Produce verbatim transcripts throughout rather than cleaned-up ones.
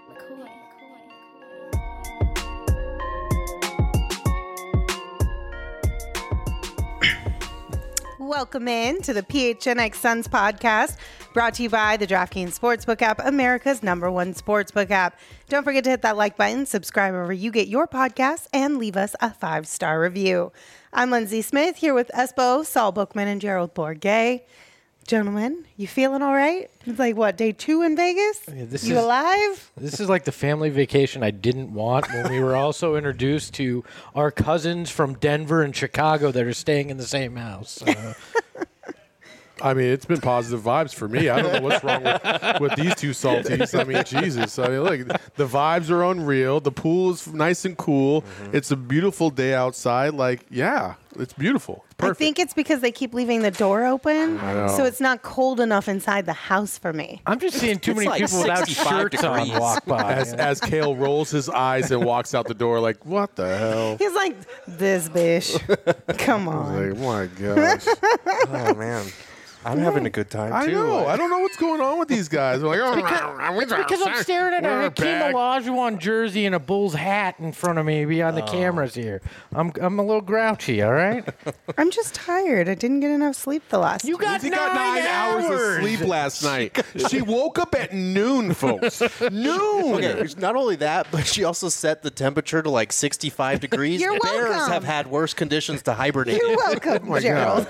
Welcome in to the P H N X Suns podcast, brought to you by the DraftKings Sportsbook app, America's number one sportsbook app. Don't forget to hit that like button, subscribe wherever you get your podcasts, and leave us a five-star review. I'm Lindsay Smith, here with Espo, Saul Bookman, and Gerald Bourget. Gentlemen, you feeling all right? It's like, what, day two in Vegas? Yeah, this you is, alive? This is like the family vacation I didn't want when we were also introduced to our cousins from Denver and Chicago that are staying in the same house. Uh, I mean, it's been positive vibes for me. I don't know what's wrong with, with these two salties. I mean, Jesus. I mean, look, the vibes are unreal. The pool is nice and cool. Mm-hmm. It's a beautiful day outside. Like, yeah, it's beautiful. It's perfect. I think it's because they keep leaving the door open, so it's not cold enough inside the house for me. I'm just seeing too It's many like people without shirts degrees. on walk by. As, as Kale rolls his eyes and walks out the door like, what the hell? He's like, this bitch. Come on. Like, my gosh. Oh, man. I'm having a good time, too. I know. I don't know what's going on with these guys. They're like, oh, It's because I'm staring at a We're Hakeem back. Olajuwon jersey and a Bulls hat in front of me behind the cameras here. I'm I'm a little grouchy, all right? I'm just tired. I didn't get enough sleep the last You got She nine, got nine hours. hours of sleep last night. She woke up at noon, folks. Noon. Okay, not only that, but she also set the temperature to like sixty-five degrees. You're Bears welcome. have had worse conditions to hibernate. You're welcome, my Gerald.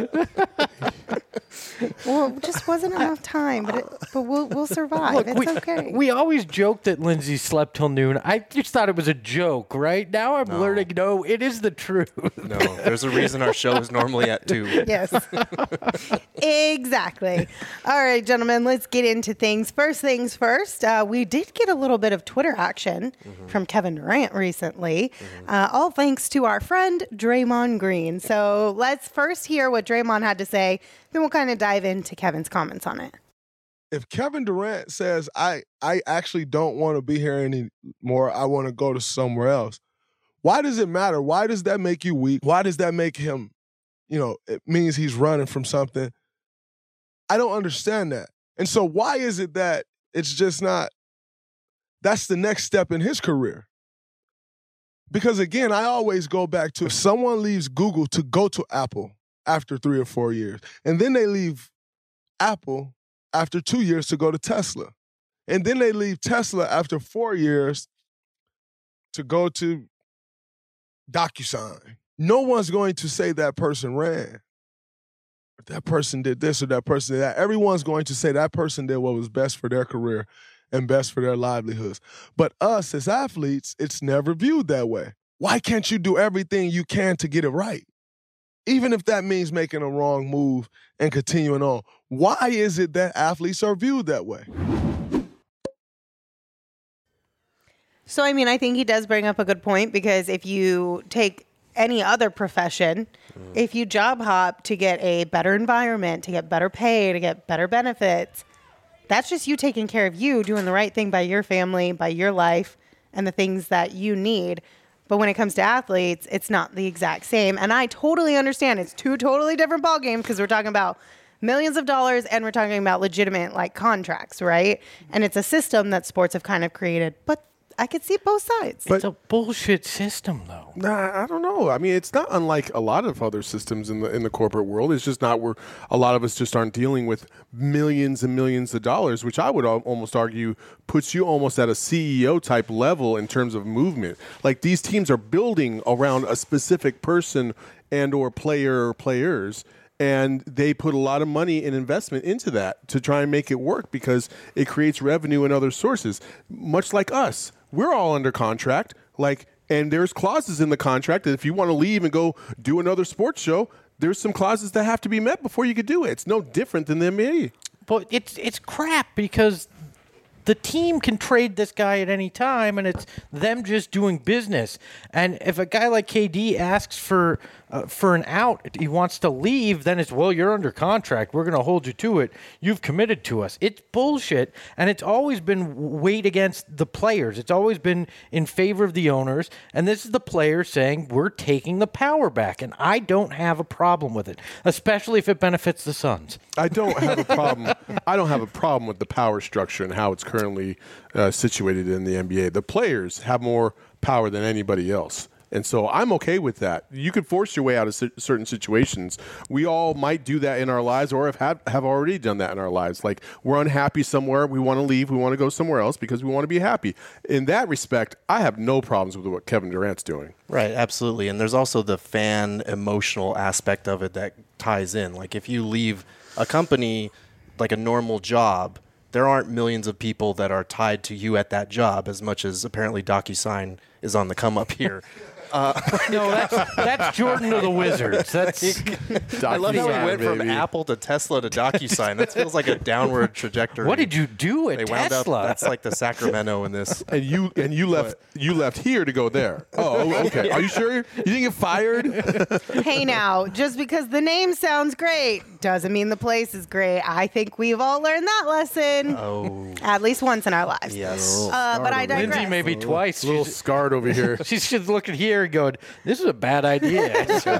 Well, it just wasn't enough time, but it, but we'll we'll survive. Look, it's we, okay. we always joke that Lindsay slept till noon. I just thought it was a joke, right? Now I'm learning, no, it is the truth. No, there's a reason our show is normally at two. Yes. Exactly. All right, gentlemen, let's get into things. First things first, uh, we did get a little bit of Twitter action mm-hmm. from Kevin Durant recently, mm-hmm. uh, all thanks to our friend Draymond Green. So let's first hear what Draymond had to say, then we'll kind of dive into Kevin's comments on it. If Kevin Durant says, I, I actually don't want to be here anymore, I want to go to somewhere else, why does it matter? Why does that make you weak? Why does that make him, you know, it means he's running from something? I don't understand that. And so why is it that it's just not, that's the next step in his career? Because again, I always go back to if someone leaves Google to go to Apple after three or four years, and then they leave Apple after two years to go to Tesla, and then they leave Tesla after four years to go to DocuSign. No one's going to say that person ran, or that person did this, or that person did that. Everyone's going to say that person did what was best for their career and best for their livelihoods. But us as athletes, it's never viewed that way. Why can't you do everything you can to get it right? Even if that means making a wrong move and continuing on. Why is it that athletes are viewed that way? So, I mean, I think he does bring up a good point, because if you take any other profession, mm. if you job hop to get a better environment, to get better pay, to get better benefits, that's just you taking care of you, doing the right thing by your family, by your life, and the things that you need. But when it comes to athletes, it's not the exact same. And I totally understand. It's two totally different ballgames, because we're talking about millions of dollars and we're talking about legitimate like contracts, right? And it's a system that sports have kind of created. But I could see both sides. But it's a bullshit system, though. Nah, I don't know. I mean, it's not unlike a lot of other systems in the in the corporate world. It's just not where a lot of us just aren't dealing with millions and millions of dollars, which I would al- almost argue puts you almost at a C E O type level in terms of movement. Like, these teams are building around a specific person and or player or players, and they put a lot of money and investment into that to try and make it work, because it creates revenue in other sources. Much like us, we're all under contract, like, and there's clauses in the contract that if you want to leave and go do another sports show, there's some clauses that have to be met before you could do it. It's no different than the N B A. But it's it's crap, because the team can trade this guy at any time, and it's them just doing business. And if a guy like K D asks for uh, for an out, he wants to leave, then it's, well, you're under contract. We're going to hold you to it. You've committed to us. It's bullshit, and it's always been weighed against the players. It's always been in favor of the owners, and this is the players saying, we're taking the power back, and I don't have a problem with it, especially if it benefits the Suns. I don't have a problem. I don't have a problem with the power structure and how it's currently uh, situated in the N B A. The players have more power than anybody else. And so I'm okay with that. You could force your way out of c- certain situations. We all might do that in our lives or have had, have already done that in our lives. Like we're unhappy somewhere. We want to leave. We want to go somewhere else because we want to be happy. In that respect, I have no problems with what Kevin Durant's doing. Right, absolutely. And there's also the fan emotional aspect of it that ties in. Like if you leave a company like a normal job, there aren't millions of people that are tied to you at that job as much as apparently DocuSign is on the come up here. Uh, no, that's, that's Jordan of the Wizards. That's I love how we went baby. from Apple to Tesla to DocuSign. That feels like a downward trajectory. What did you do at they wound Tesla? Up, that's like the Sacramento in this. And you and you left you left here to go there. Oh, okay. Are you sure? You didn't get fired? Hey, now, just because the name sounds great doesn't mean the place is great. I think we've all learned that lesson. Oh, at least once in our lives. Yes. Uh, but I digress. Lindsay maybe twice. A little she's, scarred over here. She's just looking here and going, "This is a bad idea."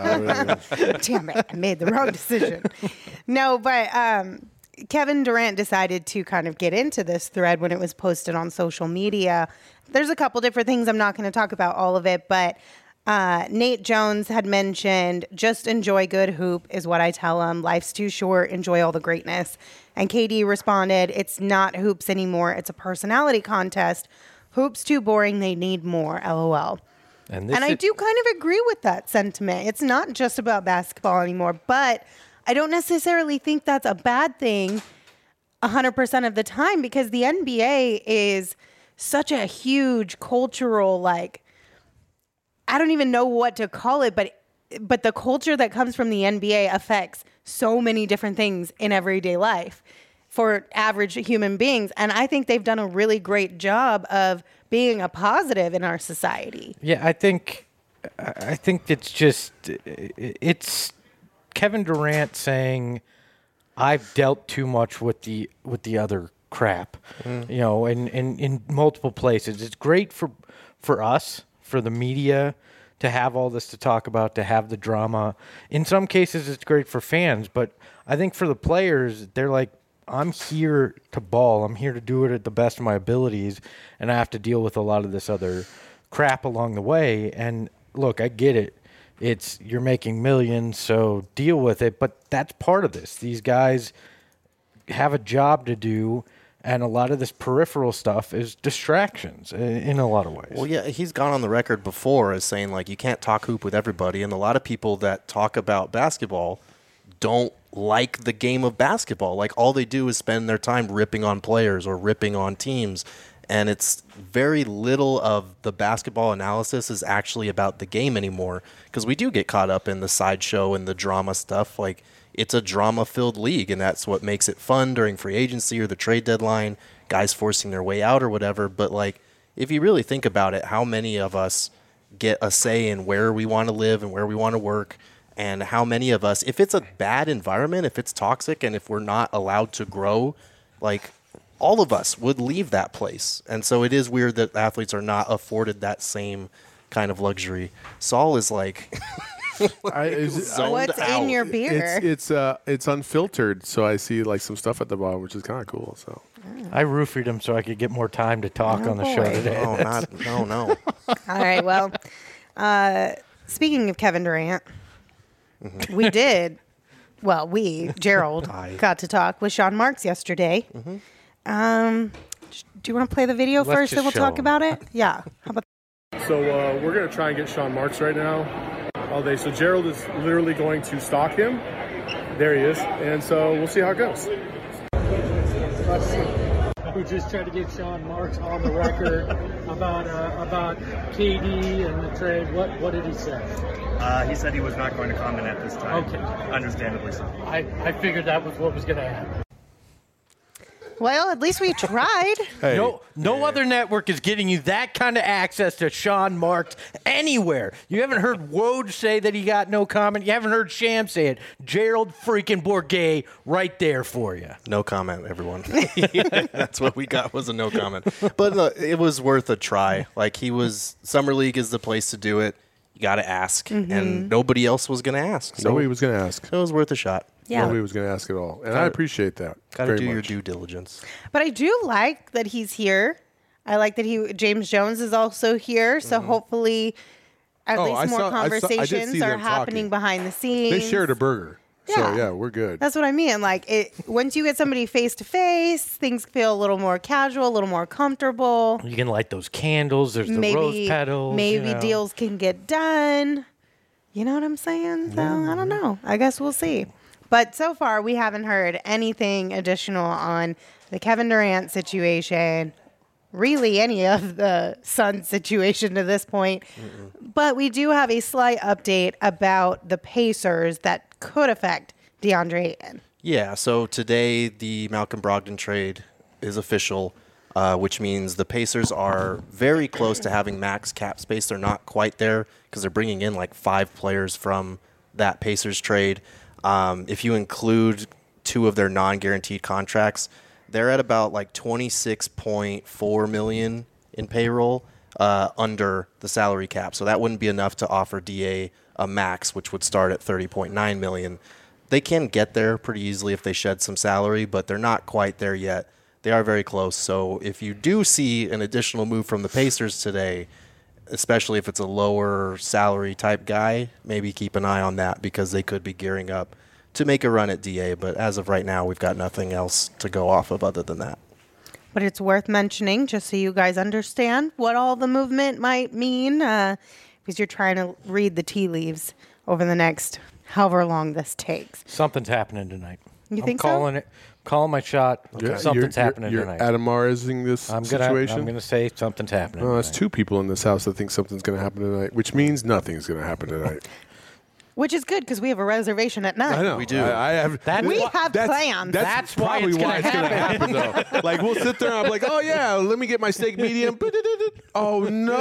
Damn it, I made the wrong decision. No, but um, Kevin Durant decided to kind of get into this thread when it was posted on social media. There's a couple different things. I'm not going to talk about all of it, but uh, Nate Jones had mentioned, just enjoy good hoop is what I tell him. Life's too short. Enjoy all the greatness. And K D responded, it's not hoops anymore. It's a personality contest. Hoops too boring. They need more. LOL. And, and I is- do kind of agree with that sentiment. It's not just about basketball anymore, but I don't necessarily think that's a bad thing one hundred percent of the time because the N B A is such a huge cultural, like, I don't even know what to call it, but but the culture that comes from the N B A affects so many different things in everyday life for average human beings. And I think they've done a really great job of being a positive in our society. Yeah, I think I think it's just it's Kevin Durant saying I've dealt too much with the with the other crap. Mm. You know, in, in, in multiple places. It's great for for us, for the media to have all this to talk about, to have the drama. In some cases it's great for fans, but I think for the players, they're like, I'm here to ball. I'm here to do it at the best of my abilities, and I have to deal with a lot of this other crap along the way. And look, I get it. It's you're making millions, so deal with it. But that's part of this. These guys have a job to do, and a lot of this peripheral stuff is distractions in a lot of ways. Well, yeah, he's gone on the record before as saying, like, you can't talk hoop with everybody, and a lot of people that talk about basketball don't like the game of basketball. Like, all they do is spend their time ripping on players or ripping on teams, and it's very little of the basketball analysis is actually about the game anymore, because we do get caught up in the sideshow and the drama stuff. Like, it's a drama-filled league, and that's what makes it fun during free agency or the trade deadline, guys forcing their way out or whatever. But, like, if you really think about it, how many of us get a say in where we want to live and where we want to work? And how many of us, if it's a bad environment, if it's toxic, and if we're not allowed to grow, like, all of us would leave that place. And so it is weird that athletes are not afforded that same kind of luxury. Saul is like, I, is, what's out. in your beer? It's it's uh it's unfiltered, so I see like some stuff at the bottom, which is kind of cool. So I roofied him so I could get more time to talk Oh, on the boy. show today. oh, not, no, no. All right, well, uh, speaking of Kevin Durant, Mm-hmm. we did, well, we, Gerald, I- got to talk with Sean Marks yesterday. Mm-hmm. Um, do you want to play the video Let's first, just then we'll show talk him. about it? Yeah. How about So uh, we're going to try and get Sean Marks right now all day. So Gerald is literally going to stalk him. There he is. And so we'll see how it goes. We just tried to get Sean Marks on the record about uh, about K D and the trade. What what did he say? Uh, he said he was not going to comment at this time. Okay. Understandably so. I, I figured that was what was going to happen. Well, at least we tried. hey, No, no other network is getting you that kind of access to Sean Marks anywhere. You haven't heard Woj say that he got no comment. You haven't heard Sham say it. Gerald freaking Bourget right there for you. No comment, everyone. That's what we got, was a no comment. But uh, it was worth a try. Like, he was, Summer League is the place to do it. You got to ask. Mm-hmm. And nobody else was going to ask. So nobody was going to ask. it was worth a shot. Yeah. Nobody was going to ask at all. And I appreciate that. Got to very do your much. due diligence. But I do like that he's here. I like that he James Jones is also here. So hopefully, at Oh, least I more saw- I saw- I did conversations see are them happening talking. behind the scenes. They shared a burger. So, Yeah. yeah, we're good. That's what I mean. Like it, once you get somebody face to face, things feel a little more casual, a little more comfortable. You can light those candles. There's the rose maybe petals. maybe you know. deals can get done. You know what I'm saying? So, I don't know. I guess we'll see. But so far, we haven't heard anything additional on the Kevin Durant situation, really any of the Suns situation to this point. Mm-mm. But we do have a slight update about the Pacers that could affect DeAndre Ayton. Yeah, so today the Malcolm Brogdon trade is official, uh, which means the Pacers are very close to having max cap space. They're not quite there because they're bringing in like five players from that Pacers trade. Um, if you include two of their non-guaranteed contracts, they're at about like twenty-six point four million dollars in payroll uh, under the salary cap. So that wouldn't be enough to offer D A a max, which would start at thirty point nine million dollars. They can get there pretty easily if they shed some salary, but they're not quite there yet. They are very close. So if you do see an additional move from the Pacers today, especially if it's a lower salary type guy, maybe keep an eye on that because they could be gearing up to make a run at D A. But as of right now, we've got nothing else to go off of other than that. But it's worth mentioning just so you guys understand what all the movement might mean uh, because you're trying to read the tea leaves over the next however long this takes. Something's happening tonight. You I'm think so? calling it. Calling my shot. Yeah, Something's you're, happening you're, tonight. You're Adamarizing this I'm gonna. situation? I'm gonna say something's happening. Oh, that's tonight. two people in this house that think something's going to happen tonight, which means nothing's going to happen tonight. Which is good because we have a reservation at nine. I know. We do. I, I have. That's We why- have that's, plans. That's, That's why probably it's why gonna it's going to happen, though. Like, we'll sit there and I'm like, oh, yeah, let me get my steak medium. Oh,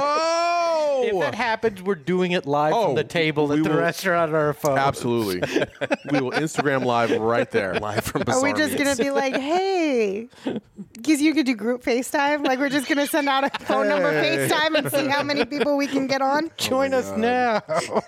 no. If that happens, we're doing it live Oh, from the table we at the will- restaurant on our phone. Absolutely. We will Instagram live right there. Live from Are Bizarre we just Meats. going to be like, hey, because you could do group FaceTime? Like, we're just going to send out a phone number Hey. FaceTime and see how many people we can get on? Join us now.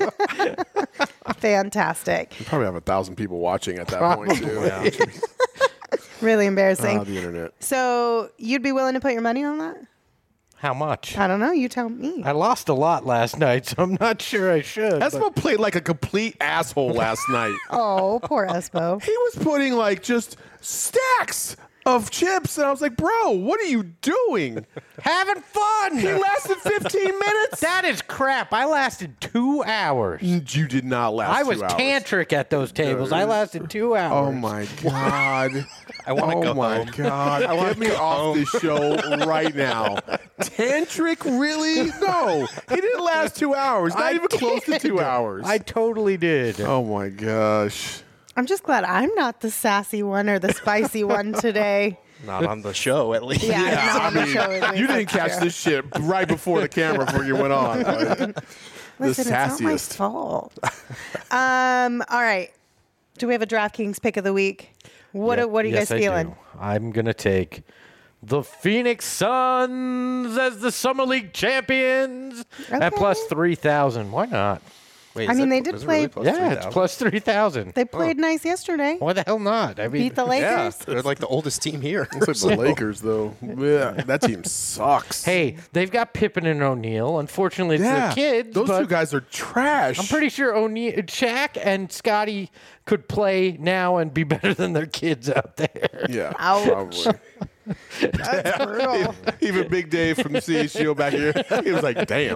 Fantastic. We probably have a thousand people watching at that point, too. Really embarrassing. Ah, the internet. So you'd be willing to put your money on that? How much? I don't know. You tell me. I lost a lot last night, so I'm not sure I should. but- Espo played like a complete asshole last night. Oh, poor Espo. He was putting like just stacks of chips, and I was like, bro, what are you doing? Having fun. He lasted fifteen minutes. That is crap. I lasted two hours. You did not last. I was two hours. tantric at those tables. I lasted two hours. Oh my god! I want to oh go my home. god! Get me off this show right now. Tantric, really? No, he didn't last two hours. Not I even close to did. two hours. I totally did. oh my gosh! I'm just glad I'm not the sassy one or the spicy one today. Not on the show, at least. Yeah, I'm not on the show. at least, You didn't that's catch true. this shit right before the camera before you went on. Like, Listen, the it's not my sassiest. fault. um, all right. Do we have a DraftKings pick of the week? What Yeah, are, what are you yes, guys I feeling? do. I'm going to take the Phoenix Suns as the Summer League champions at Okay. plus three thousand. Why not? Wait, I is mean, it- they did is it play- really plus Yeah, three it's thousand? plus three thousand. They played nice yesterday. Why the hell not? I mean, Beat the Yeah, Lakers. they're like the oldest team here. Looks like the Lakers, though. Yeah, that team sucks. Hey, they've got Pippen and O'Neal. Unfortunately, it's yeah, their kids. those but two guys are trash. I'm pretty sure O'Neal, Shaq, and Scotty could play now and be better than their kids out there. Yeah, Ouch. probably. That's brutal. Even Big Dave from the C H G O back here, he was like, "Damn."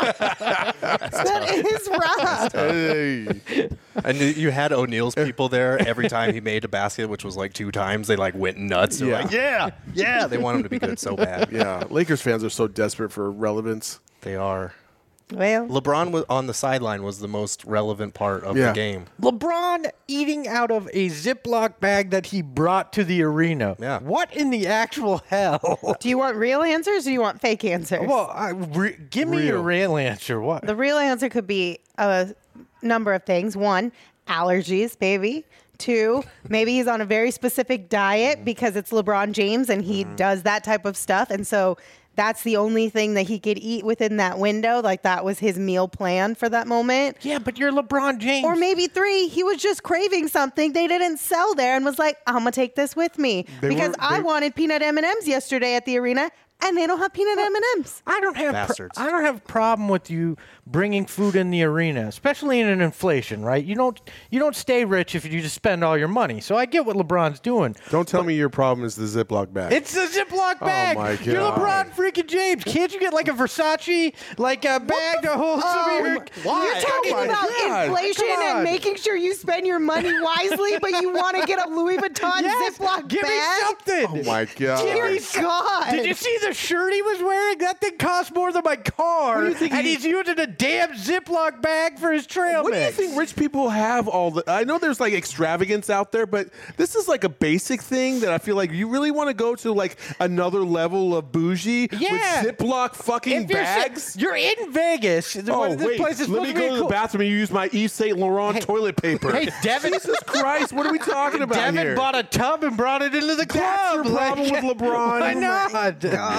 That is rough. Hey. And you- you had O'Neal's people there every time he made a basket, which was like two times. They like went nuts. They're Yeah. like, yeah, yeah. They want him to be good so bad. Yeah, Lakers fans are so desperate for relevance. They are. Well, LeBron was on the sideline was the most relevant part of Yeah. the game. LeBron eating out of a Ziploc bag that he brought to the arena. Yeah. What in the actual hell? do you want real answers or do you want fake answers? Well, I, re, give me a Real. real answer. What? The real answer could be a number of things. One, allergies, baby. Two, maybe he's on a very specific diet because it's LeBron James and he does that type of stuff. And so that's the only thing that he could eat within that window. Like that was his meal plan for that moment. Yeah, but you're LeBron James. Or maybe three, he was just craving something they didn't sell there and was like, I'm going to take this with me. They because were- I they- wanted peanut M and M's yesterday at the arena, and they don't have peanut M and M's. I don't have Bastards. Pro- I don't have a problem with you bringing food in the arena, especially in an inflation, right? You don't you don't stay rich if you just spend all your money. So I get what LeBron's doing. Don't tell me your problem is the Ziploc bag. It's a Ziploc bag. my You're God. LeBron freaking James. Can't you get like a Versace like a bag to hold some of your? Why? You're talking Oh my about God. inflation Come and on. making sure you spend your money wisely, but you want to get a Louis Vuitton Yes, Ziploc give bag? me something. oh my god! Give me Dear God. Did you see the shirt he was wearing? That thing cost more than my car, What do you think and he- he's using a damn Ziploc bag for his trail What do you mix. think rich people have all the I know there's like extravagance out there, but this is like a basic thing that I feel like you really want to go to like another level of bougie Yeah. with Ziploc fucking If you're, bags. you're in Vegas. Oh what- this wait, place is let supposed me to be go a to the cool- bathroom and use my Yves Saint Laurent Hey- toilet paper. Hey, Devin- Jesus Christ, what are we talking about Devin here? bought a tub and brought it into the club. That's your problem Like- with LeBron? Why Oh my not?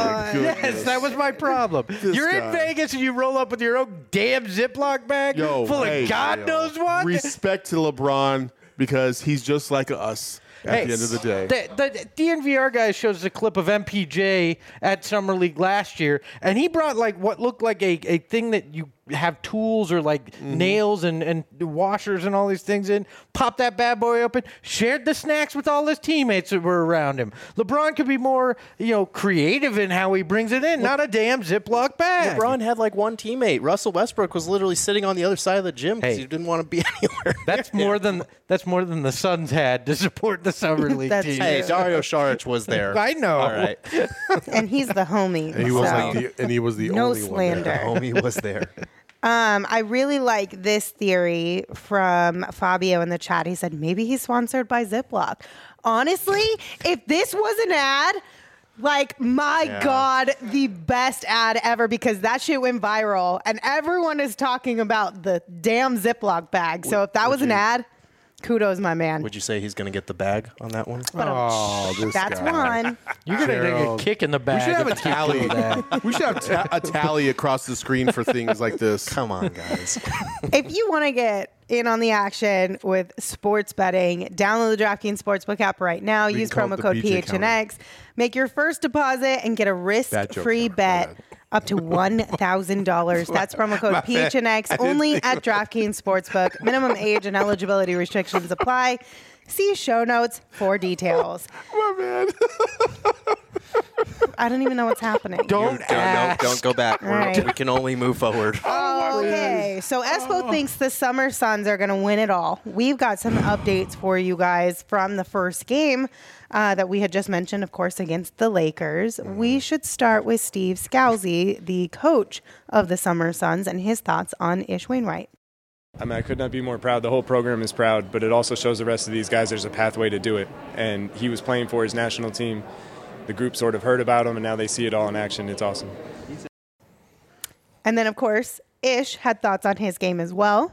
Yes, that was my problem. You're guy. in Vegas and you roll up with your own damn Ziploc bag Yo, full hey, of God yo. knows what. Respect to LeBron because he's just like us at Hey, the end of the day. The, the D N V R guy shows a clip of M P J at Summer League last year, and he brought like what looked like a, a thing that you have tools or like Mm-hmm. nails and, and washers and all these things in. Popped that bad boy open, shared the snacks with all his teammates that were around him. LeBron could be more, you know, creative in how he brings it in, not a damn Ziploc bag. LeBron had like one teammate. Russell Westbrook was literally sitting on the other side of the gym because Hey. he didn't want to be anywhere. That's more than that's more than the Suns had to support the Summer League That's team. true. Hey, Dario Saric was there. I know. All right. And he's the homie. And he was so. like the, and he was the No only slander. one there. Homie was there. Um, I really like this theory from Fabio in the chat. He said maybe he's sponsored by Ziploc. Honestly, if this was an ad, like my Yeah. God, the best ad ever because that shit went viral and everyone is talking about the damn Ziploc bag. So if that was an ad, kudos, my man. Would you say he's going to get the bag on that one? Oh, this That's guy. one. You're gonna Gerald. take a kick in the We back. should have a if you do tally. that. We should have ta- a tally across the screen for things like this. Come on, guys. If you want to get in on the action with sports betting, download the DraftKings Sportsbook app right now. We can Use call it promo the code B J P H N X. Make your first deposit and get a Bad joke. risk-free My bet bad. up to one thousand dollars. That's promo code P H N X only at DraftKings Sportsbook. Minimum age and eligibility restrictions apply. See show notes for details. My man. I don't even know what's happening. Don't Don't, no, ask. don't go back. We're- right. We can only move forward. Oh, okay. So Espo thinks the Summer Suns are going to win it all. We've got some updates for you guys from the first game uh, that we had just mentioned, of course, against the Lakers. We should start with Steve Scalzi, the coach of the Summer Suns, and his thoughts on Ish Wainwright. I mean, I could not be more proud. The whole program is proud, but it also shows the rest of these guys there's a pathway to do it. And he was playing for his national team. The group sort of heard about him, and now they see it all in action. It's awesome. And then, of course, Ish had thoughts on his game as well.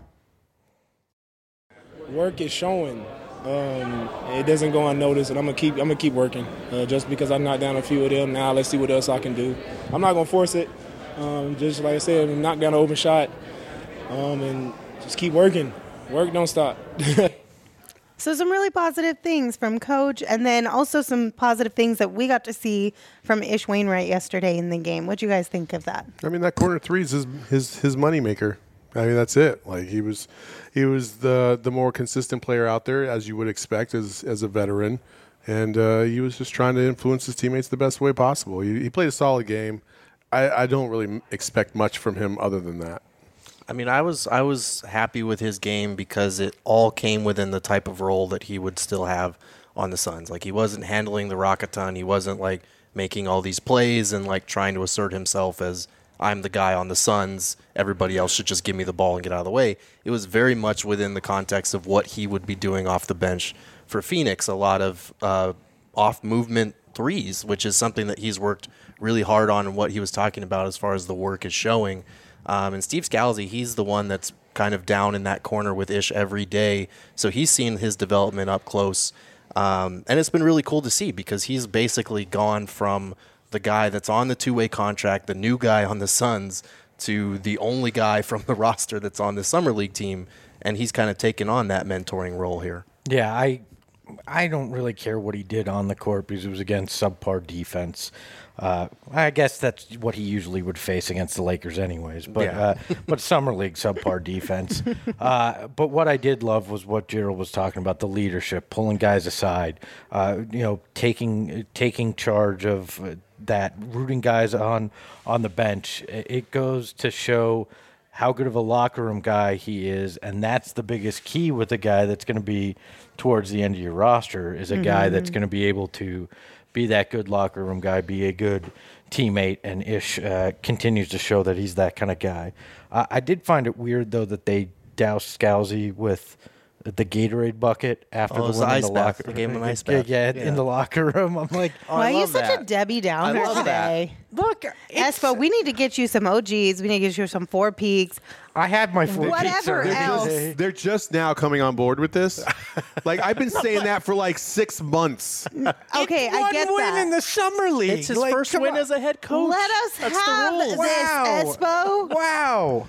Work is showing. Um, it doesn't go unnoticed, and I'm gonna keep. I'm gonna keep working. Uh, just because I knocked down a few of them, now let's see what else I can do. I'm not gonna force it. Um, just like I said, knock down an open shot, um, and just keep working. Work don't stop. So some really positive things from Coach, and then also some positive things that we got to see from Ish Wainwright yesterday in the game. What do you guys think of that? I mean, that corner three is his his, his money maker. I mean, that's it. Like he was, he was the the more consistent player out there, as you would expect as as a veteran, and uh, he was just trying to influence his teammates the best way possible. He, he played a solid game. I, I don't really expect much from him other than that. I mean, I was I was happy with his game because it all came within the type of role that he would still have on the Suns. Like he wasn't handling the rock a ton. He wasn't like making all these plays and like trying to assert himself as I'm the guy on the Suns. Everybody else should just give me the ball and get out of the way. It was very much within the context of what he would be doing off the bench for Phoenix. A lot of uh, off movement threes, which is something that he's worked really hard on and what he was talking about as far as the work is showing. Um, and Steve Scalzi, he's the one that's kind of down in that corner with Ish every day. So he's seen his development up close. Um, and it's been really cool to see because he's basically gone from the guy that's on the two-way contract, the new guy on the Suns, to the only guy from the roster that's on the Summer League team, and he's kind of taken on that mentoring role here. Yeah, I I don't really care what he did on the court because it was against subpar defense. Uh, I guess that's what he usually would face against the Lakers anyways. But Yeah. uh, but Summer League subpar defense. Uh, but what I did love was what Gerald was talking about, the leadership, pulling guys aside, uh, you know, taking taking charge of uh, that, rooting guys on on the bench. It it goes to show how good of a locker room guy he is, and that's the biggest key with a guy that's going to be towards the end of your roster is a guy that's going to be able to be that good locker room guy, be a good teammate, and Ish uh, continues to show that he's that kind of guy. Uh, I did find it weird, though, that they doused Scalzi with the Gatorade bucket after Oh, it the was win the in ice the bath. locker They gave him an ice Yeah, bath. Yeah, Yeah. in the locker room. I'm like, Oh, Why I are you love such that. a Debbie Downer I love today? look, it's- Espo, we need to get you some O Gs. We need to get you some Four Peaks. I had my four Whatever peaks already else. today. They're just now coming on board with this. Like I've been saying that for like six months. Okay, It's I one get win that. in the summer league. It's his Like, first come win on. as a head coach. Let us That's the have rules. this, Espo. Wow.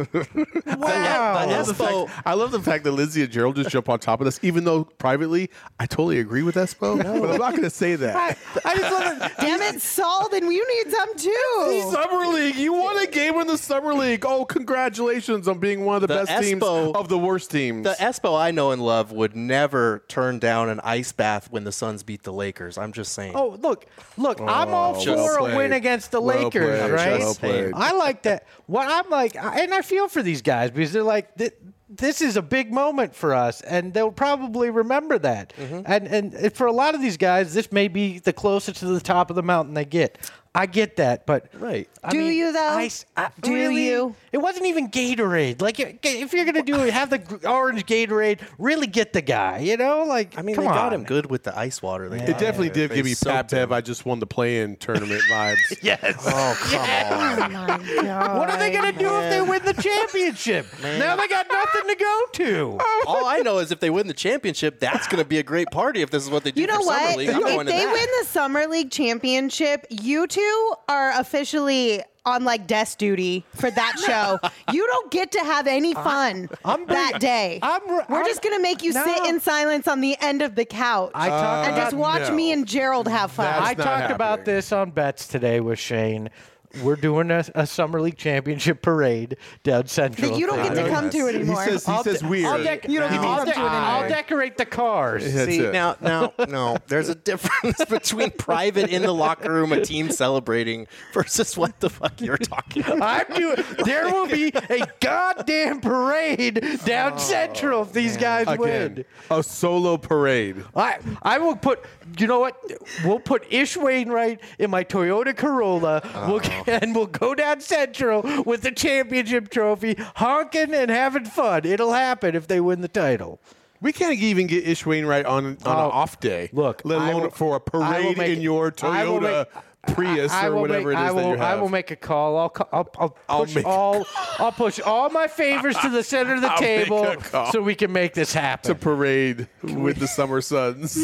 wow. I love, the Espo- fact, I love the fact that Lindsay and Gerald just jump on top of this, even though privately I totally agree with Espo, but I'm not going to say that. I just love it. Damn it, Saul, then you need some too. Summer League, you won a game in the Summer League. Oh, congratulations on being one of the, The best teams Espo- of the worst teams. The Espo I know and love would never turn down an ice bath when the Suns beat the Lakers. I'm just saying. Oh, look, look, I'm all Oh, for well a played. win against the Well Lakers, played, right? well played. I like that. What I'm like, and I feel for these guys because they're like, th- this is a big moment for us, and they'll probably remember that. And and for a lot of these guys, this may be the closest to the top of the mountain they get. I get that, but Right. I Do mean, you, though? I, I, Do really? you? It wasn't even Gatorade. Like, if you're gonna do it, have the gr- orange Gatorade. Really get the guy. You know, like I mean, come they on. got him good with the ice water. They it got definitely him. did They give me soaked Pat Bev. him. I just won the play-in tournament vibes. Yes. Oh, come on. Oh my God. What are they going to do if they win the championship? Now they got nothing to go to. All I know is if they win the championship, that's going to be a great party. If this is what they do You know for Summer what? League, I'm going If to they that. win the Summer League championship, you two are officially on like desk duty for that show. You don't get to have any fun I'm that bring- day. I'm re- We're I'm- just gonna make you sit No. in silence on the end of the couch I talked and about just watch no. me and Gerald have fun. That's I not talked about happening. this on Bets today with Shane. We're doing a, a Summer League championship parade down Central. That you don't get to come to He anymore. says, he I'll says de- weird. I'll, dec- You don't get to I'll, come de- to it anymore. I'll decorate the cars. That's See it. now, now, no. There's a difference between private in the locker room, a team celebrating, versus what the fuck you're talking about. I'm doing. There will be a goddamn parade down Central if these guys Again, win. a solo parade. I I will put. You know what? We'll put Ish Wainwright in my Toyota Corolla, we'll, and we'll go down Central with the championship trophy, honking and having fun. It'll happen if they win the title. We can't even get Ish Wainwright on, on Oh, an off day. look, let I alone will- for a I will parade make- in your I will Toyota Prius I or will whatever make, it is I will, that you have. I will make a call. I'll, ca- I'll, I'll I'll push make a all. I'll push all my favors to the center of the I'll make table a call. so we can make this happen. to parade with the Summer Suns.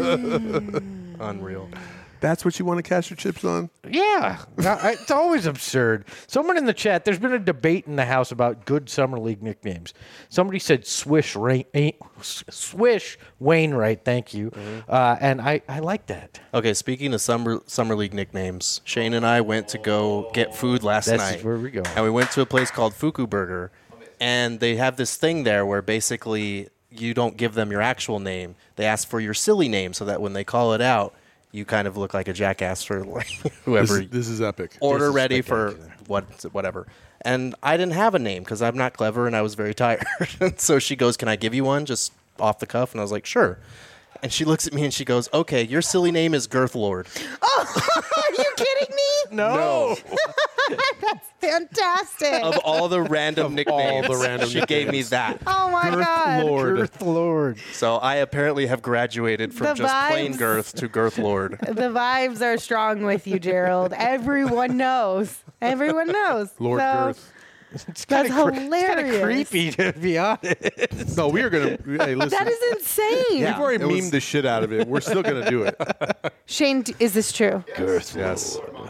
Unreal. That's what you want to cash your chips on? Yeah, I- it's always absurd. Someone in the chat, there's been a debate in the house about good summer league nicknames. Somebody said Swish Rain, eh, Swish Wainwright. Thank you, uh, and I, I like that. Okay, speaking of summer summer league nicknames, Shane and I went to go get food last This night. is where we go. And we went to a place called Fuku Burger, and they have this thing there where basically you don't give them your actual name. They ask for your silly name so that when they call it out, you kind of look like a jackass for like whoever. This, this is epic. Order This is ready for spectacular. what whatever. And I didn't have a name because I'm not clever and I was very tired. So she goes, "Can I give you one just off the cuff?" And I was like, "Sure." And she looks at me and she goes, "Okay, your silly name is Girth Lord." Oh, are you kidding me? No, That's fantastic. Of all the random nicknames, the random she gave me nicknames. that. Oh my Girth God. Lord. Girth Lord. So I apparently have graduated from The just plain vibes. girth to Girth Lord. The vibes are strong with you, Gerald. Everyone knows. Everyone knows. Lord So, Girth. It's That's kinda cre- It's kind hilarious. of creepy, to be honest. No, we are going to. Hey, listen. That is insane. We've already memed the shit out of it. We're still going to do it. Shane, d- is this true? Yes.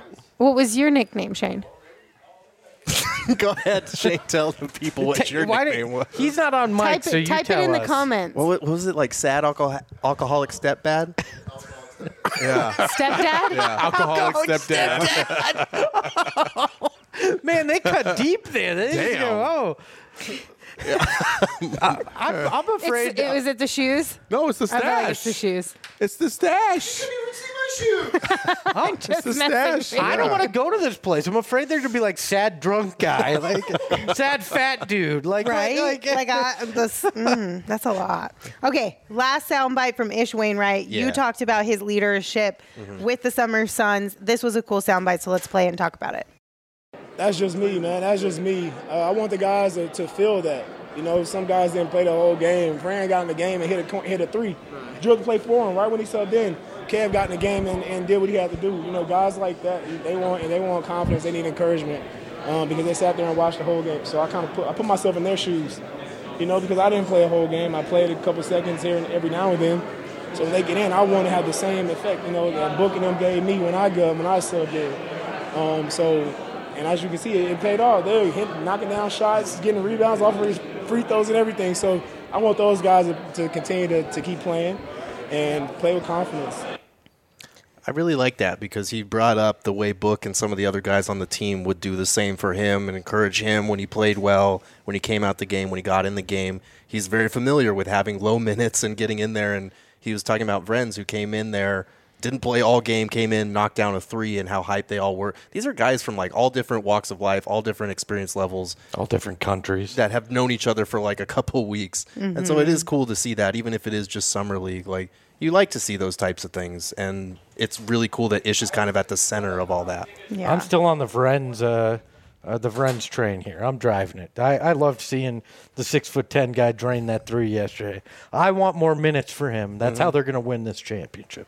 What was your nickname, Shane? Go ahead, Shane. Tell the people what your Why nickname did- was. He's not on mic, Type so it, you type it tell in the us. comments. What, wa- what was it like? Sad alcohol- alcoholic stepdad? Yeah. Stepdad? Alcoholic stepdad. Man, they cut deep there. They just Damn. go, oh. I, I'm, I'm It's, afraid. it, was it the shoes? No, it's the I feel like it's stash. the shoes. It's the stash. I'm just the messing stash. with you. I don't want to go to this place. I'm afraid there's gonna be like sad drunk guy, like sad fat dude, like Right? Like, Like, I, this, mm, that's a lot. Okay, last soundbite from Ish Wainwright. You Yeah. talked about his leadership with the Summer Suns. This was a cool soundbite, so let's play it and talk about it. That's just me, man. That's just me. Uh, I want the guys to, to feel that. You know, some guys didn't play the whole game. Fran got in the game and hit a co- hit a three. Drew to play for him right when he subbed in. Kev got in the game and, and did what he had to do. You know, guys like that, they want they want confidence. They need encouragement um, because they sat there and watched the whole game. So I kind of put I put myself in their shoes. You know, because I didn't play a whole game. I played a couple seconds here and every now and then. So when they get in, I want to have the same effect. You know, that Book and them gave me when I got when I subbed in. Um, so. And as you can see, it, it paid off. They were hitting, knocking down shots, getting rebounds off of free throws and everything. So I want those guys to, to continue to, to keep playing and play with confidence. I really like that because he brought up the way Book and some of the other guys on the team would do the same for him and encourage him when he played well, when he came out the game, when he got in the game. He's very familiar with having low minutes and getting in there. And he was talking about Vrenz, who came in there, didn't play all game, came in, knocked down a three, and how hyped they all were. These are guys from like all different walks of life, all different experience levels, all different countries that have known each other for like a couple weeks. Mm-hmm. And so it is cool to see that, even if it is just summer league. Like you like to see those types of things, and it's really cool that Ish is kind of at the center of all that. Yeah. I'm still on the Vrenz, uh, uh, the Vrenz train here. I'm driving it. I, I loved seeing the six foot ten guy drain that three yesterday. I want more minutes for him. That's mm-hmm. how they're going to win this championship.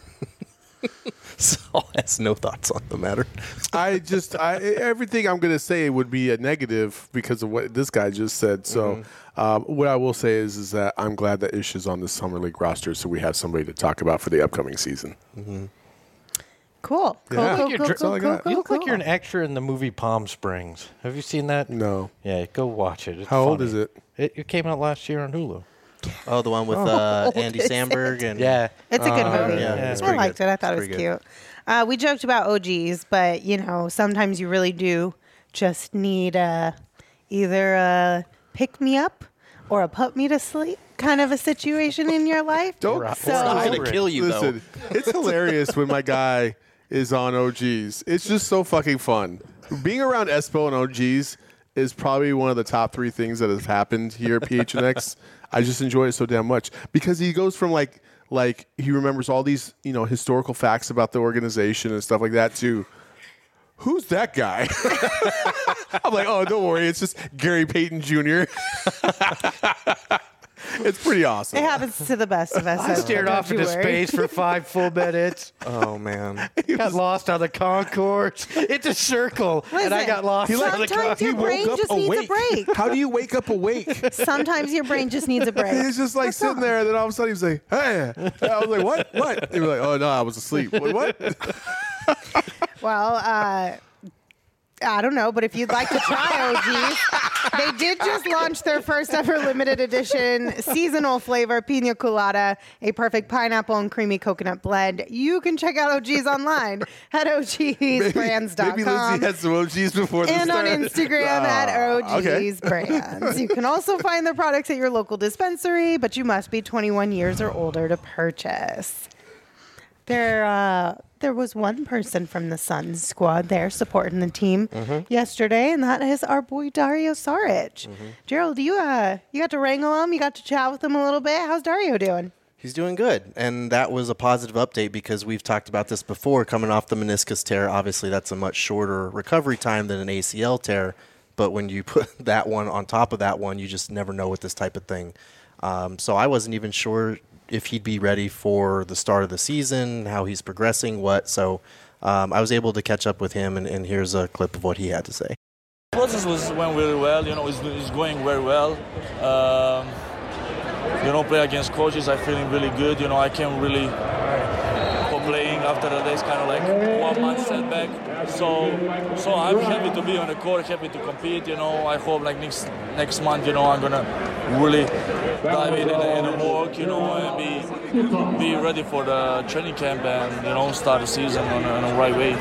Saul has no thoughts on the matter. I just, I, everything I'm going to say would be a negative because of what this guy just said. So, mm-hmm. um, what I will say is, is that I'm glad that Ish is on the summer league roster, so we have somebody to talk about for the upcoming season. Mm-hmm. Cool. Cool, Yeah. cool, You cool, look cool, like cool, you're- cool, You look cool. like you're an extra in the movie Palm Springs. Have you seen that? No. Yeah, go watch it. It's How old funny. is it? it? It came out last year on Hulu. Oh, the one with Oh, uh, old Andy is Samberg it? and Yeah. It's a good Uh, movie. yeah, yeah. it's I pretty liked good. it. I thought it It's was pretty good. cute. Uh, we joked about O Gs, but, you know, sometimes you really do just need a, either a pick me up or a put me to sleep kind of a situation in your life. Don't Or a- So- or a It's not hybrid. going to kill you, Listen, though. it's hilarious when my guy is on O Gs. It's just so fucking fun. Being around Espo and O Gs is probably one of the top three things that has happened here at P H N X. I just enjoy it so damn much because he goes from like like he remembers all these, you know, historical facts about the organization and stuff like that to who's that guy? I'm like, oh, don't worry, it's just Gary Payton Junior It's pretty awesome. It happens to the best of us. I stared don't off you into worry. space for five full minutes. Oh, man. Got lost on the concourse. It's a circle, and I Listen, got lost on the sometimes your concourse. brain just needs a break. How do you wake up awake? Sometimes your brain just needs a break. He's just like sitting there, and then all of a sudden he's like, "Hey!" And I was like, "What? What?" He was like, "Oh no, I was asleep." What? what? Well, uh, I don't know, but if you'd like to try O Gs, they did just launch their first ever limited edition seasonal flavor, Pina Colada, a perfect pineapple and creamy coconut blend. You can check out O Gs online at O Gs brands dot com. Maybe Lindsay had some O Gs before And the on start. Instagram Ah, at O Gs okay. Brands. You can also find their products at your local dispensary, but you must be twenty-one years or older to purchase. There, uh, there was one person from the Suns squad there supporting the team Mm-hmm. yesterday, and that is our boy Dario Saric. Mm-hmm. Gerald, you uh, you got to wrangle him. You got to chat with him a little bit. How's Dario doing? He's doing good, and that was a positive update because we've talked about this before. Coming off the meniscus tear, obviously that's a much shorter recovery time than an A C L tear, but when you put that one on top of that one, you just never know with this type of thing. Um, so I wasn't even sure if he'd be ready for the start of the season, how he's progressing, what. So um, I was able to catch up with him, and, and here's a clip of what he had to say. The process was went really well. You know, it's, it's going very well. Um, you know, play against coaches, I'm feeling really good. You know, I can't really complain after this kind of like one month setback. So, so I'm happy to be on the court, happy to compete. You know, I hope like next next month, you know, I'm gonna really dive in in the work, you know, and be be ready for the training camp and you know start the season on a, on the right way.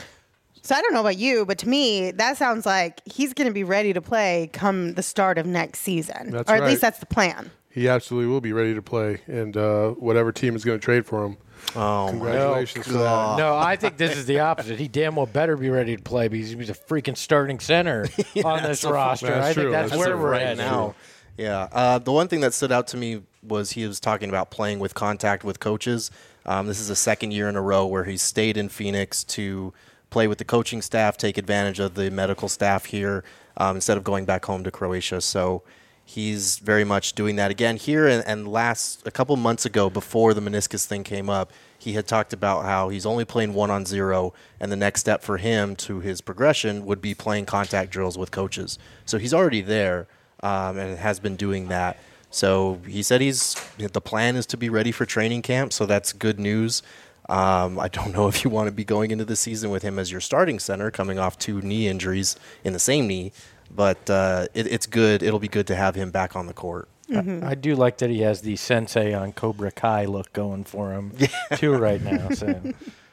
So I don't know about you, but to me, that sounds like he's going to be ready to play come the start of next season. That's or at right. least that's the plan. He absolutely will be ready to play, and uh, whatever team is going to trade for him. Oh, congratulations for that. No, I think this is the opposite. He damn well better be ready to play because he's a freaking starting center on this roster. That's I true. think that's, That's where true. we're right at now. Yeah. Uh, the one thing that stood out to me was he was talking about playing with contact with coaches. Um, this is the second year in a row where he's stayed in Phoenix to play with the coaching staff, take advantage of the medical staff here um, instead of going back home to Croatia. So he's very much doing that again here. And, and last a couple months ago, before the meniscus thing came up, he had talked about how he's only playing one on zero, and the next step for him to his progression would be playing contact drills with coaches. So he's already there um, and has been doing that. So he said he's the plan is to be ready for training camp. So that's good news. Um, I don't know if you want to be going into the season with him as your starting center, coming off two knee injuries in the same knee, but uh, it, it's good. It'll be good to have him back on the court. Mm-hmm. I, I do like that he has the Sensei on Cobra Kai look going for him too right now. So.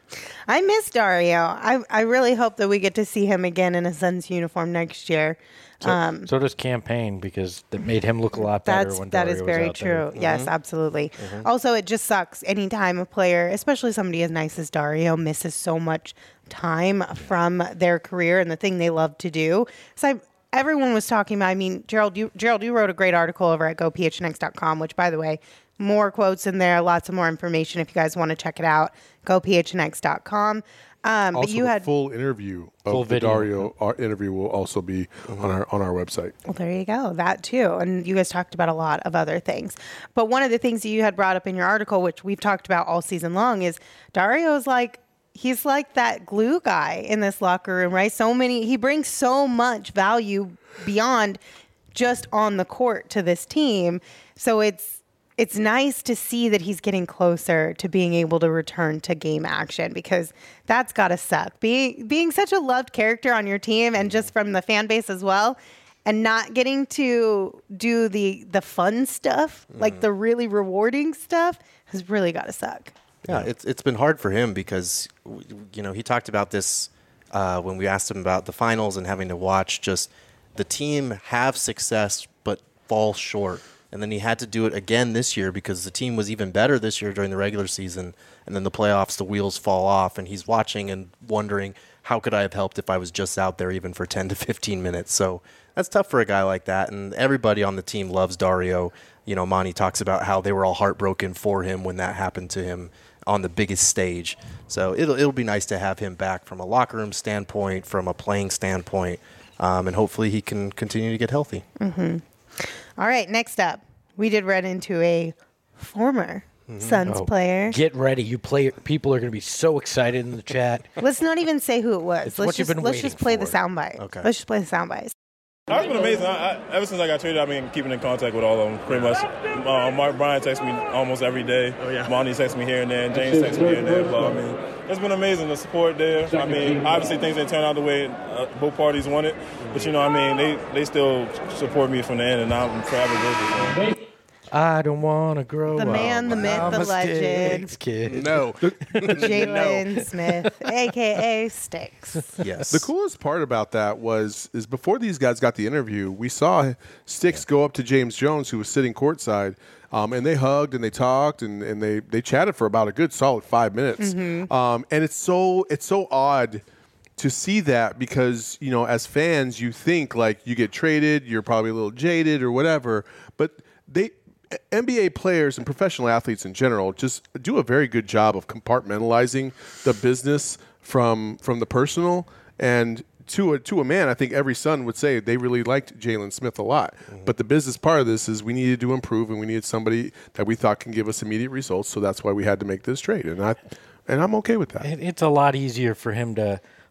I miss Dario. I, I really hope that we get to see him again in a Suns uniform next year. So, Um, so does Campaign because that made him look a lot better That's when that Dario is was very out true. there. Yes, absolutely. Also, it just sucks anytime a player, especially somebody as nice as Dario, misses so much time from their career and the thing they love to do. So I, everyone was talking about. I mean, Gerald, you Gerald, you wrote a great article over at go p h n x dot com, which, by the way, more quotes in there, lots of more information if you guys want to check it out. go p h n x dot com. Um, Also, but you the had full interview of Full the video. Dario our interview will also be on our on our website. Well, there you go. That too. And you guys talked about a lot of other things. But one of the things that you had brought up in your article, which we've talked about all season long, is Dario's like, he's like that glue guy in this locker room, right? So many, he brings so much value beyond just on the court to this team. So it's, it's nice to see that he's getting closer to being able to return to game action because that's got to suck. Being being such a loved character on your team and just from the fan base as well, and not getting to do the the fun stuff, mm. like the really rewarding stuff, has really got to suck. Yeah, it's it's been hard for him because you know he talked about this uh, when we asked him about the finals and having to watch just the team have success but fall short. And then he had to do it again this year because the team was even better this year during the regular season. And then the playoffs, the wheels fall off. And he's watching and wondering, how could I have helped if I was just out there even for ten to fifteen minutes? So that's tough for a guy like that. And everybody on the team loves Dario. You know, Monty talks about how they were all heartbroken for him when that happened to him on the biggest stage. So it'll, it'll be nice to have him back from a locker room standpoint, from a playing standpoint. Um, and hopefully he can continue to get healthy. Mm-hmm. All right, next up, we did run into a former mm-hmm. Suns oh, player. Get ready. You play. People are going to be so excited in the chat. Let's not even say who it was. It's let's what just, you've been let's just play for. the soundbite. Okay. Let's just play the soundbite. It's been amazing. I, I, ever since I got traded, I've been keeping in contact with all of them, pretty much. Uh, Mark Bryan texts me almost every day. Oh, yeah. Monty texts me here and there, and James texts me here and there. Blah. I mean, it's been amazing, the support there. I mean, obviously things didn't turn out the way uh, both parties wanted, but, you know, I mean, they, they still support me from the end, and I'm forever grateful for them. I don't want to grow the up. The man, the myth, the legend. Kid. No. Jalen no. Smith, a k a. Sticks. Yes. The coolest part about that was is before these guys got the interview, we saw Sticks yeah. go up to James Jones, who was sitting courtside, um, and they hugged and they talked and, and they, they chatted for about a good solid five minutes. Mm-hmm. Um, and it's so it's so odd to see that because, you know, as fans, you think like you get traded, you're probably a little jaded or whatever, but they – N B A players and professional athletes in general just do a very good job of compartmentalizing the business from from the personal. And to a, to a man, I think every Sun would say they really liked Jalen Smith a lot. Mm-hmm. But the business part of this is we needed to improve, and we needed somebody that we thought can give us immediate results. So that's why we had to make this trade, and I and I'm okay with that. It, it's a lot easier for him to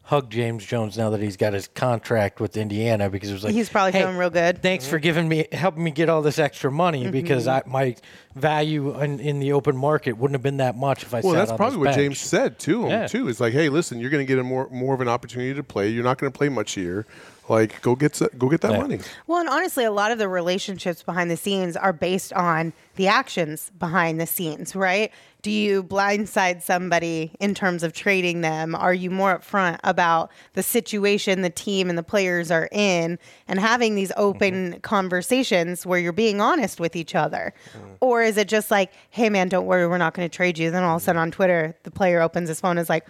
hug James Jones now that he's got his contract with Indiana because it was like He's probably hey, feeling real good. Thanks for giving me helping me get all this extra money Mm-hmm. because I, my value in, in the open market wouldn't have been that much if I Well, sat that's on probably this what bench. James said to him Yeah. too. It's like, hey, listen, you're going to get a more more of an opportunity to play. You're not going to play much here. Like, go get s- go get that Yeah. money. Well, and honestly, a lot of the relationships behind the scenes are based on the actions behind the scenes, right? Do you blindside somebody in terms of trading them? Are you more upfront about the situation the team and the players are in and having these open Mm-hmm. conversations where you're being honest with each other? Or is it just like, hey, man, don't worry, we're not going to trade you. Then all of a sudden on Twitter, the player opens his phone and is like,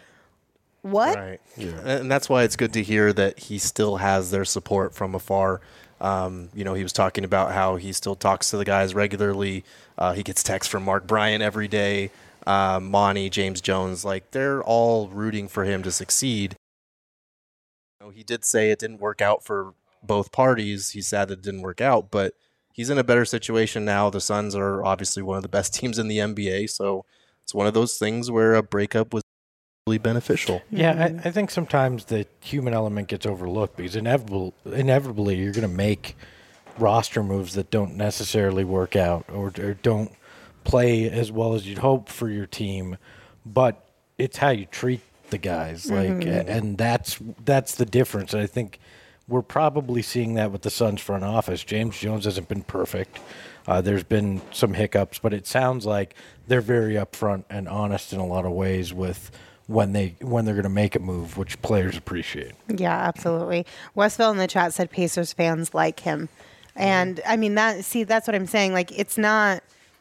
what? Right. And that's why it's good to hear that he still has their support from afar. Um, you know, he was talking about how he still talks to the guys regularly. Uh, he gets texts from Mark Bryant every day, uh, Monty, James Jones. Like, they're all rooting for him to succeed. You know, he did say it didn't work out for both parties. He's sad that it didn't work out, but he's in a better situation now. The Suns are obviously one of the best teams in the N B A, so it's one of those things where a breakup was really beneficial. Yeah, I, I think sometimes the human element gets overlooked because inevitable, inevitably you're going to make roster moves that don't necessarily work out or, or don't play as well as you'd hope for your team, but it's how you treat the guys. Like, Mhm. and that's that's the difference. And I think we're probably seeing that with the Suns front office. James Jones hasn't been perfect. Uh, there's been some hiccups, but it sounds like they're very upfront and honest in a lot of ways with when they when they're going to make a move, which players appreciate. Yeah, absolutely. Westville in the chat said Pacers fans like him. And I mean that see that's what I'm saying. Like it's not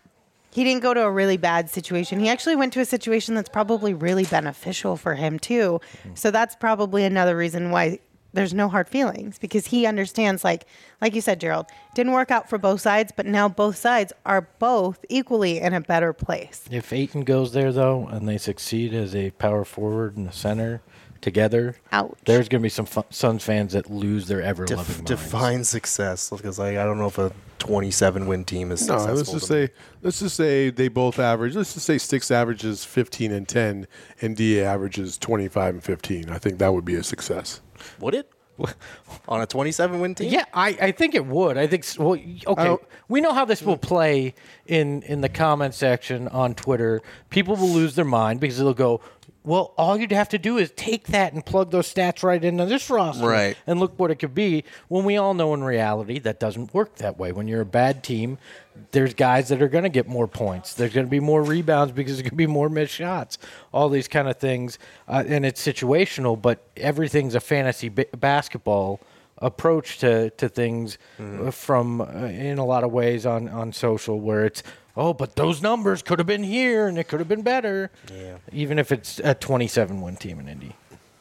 he didn't go to a really bad situation. He actually went to a situation that's probably really beneficial for him too. So that's probably another reason why there's no hard feelings because he understands like like you said, Gerald, didn't work out for both sides, but now both sides are both equally in a better place. If Ayton goes there, though, and they succeed as a power forward and a center together, Ouch. there's going to be some fu- Suns fans that lose their ever-loving Def- minds. define success because like, I don't know if a twenty-seven win team is No, successful. let's just to me. say let's just say they both average. Let's just say Sticks averages fifteen and ten, and D A averages twenty-five and fifteen. I think that would be a success. Would it? On a twenty-seven win team? Yeah, I, I think it would. I think, s- well, y- okay, we know how this will play in, in the comment section on Twitter. People will lose their mind because they'll go, well, all you'd have to do is take that and plug those stats right into this roster. Right. And look what it could be. When we all know in reality that doesn't work that way. When you're a bad team, there's guys that are going to get more points. There's going to be more rebounds because there's going to be more missed shots. All these kind of things. Uh, and it's situational, but everything's a fantasy ba- basketball approach to, to things uh, from, uh, in a lot of ways on, on social where it's, oh, but those numbers could have been here and it could have been better. Yeah. Even if it's a twenty-seven win team in Indy.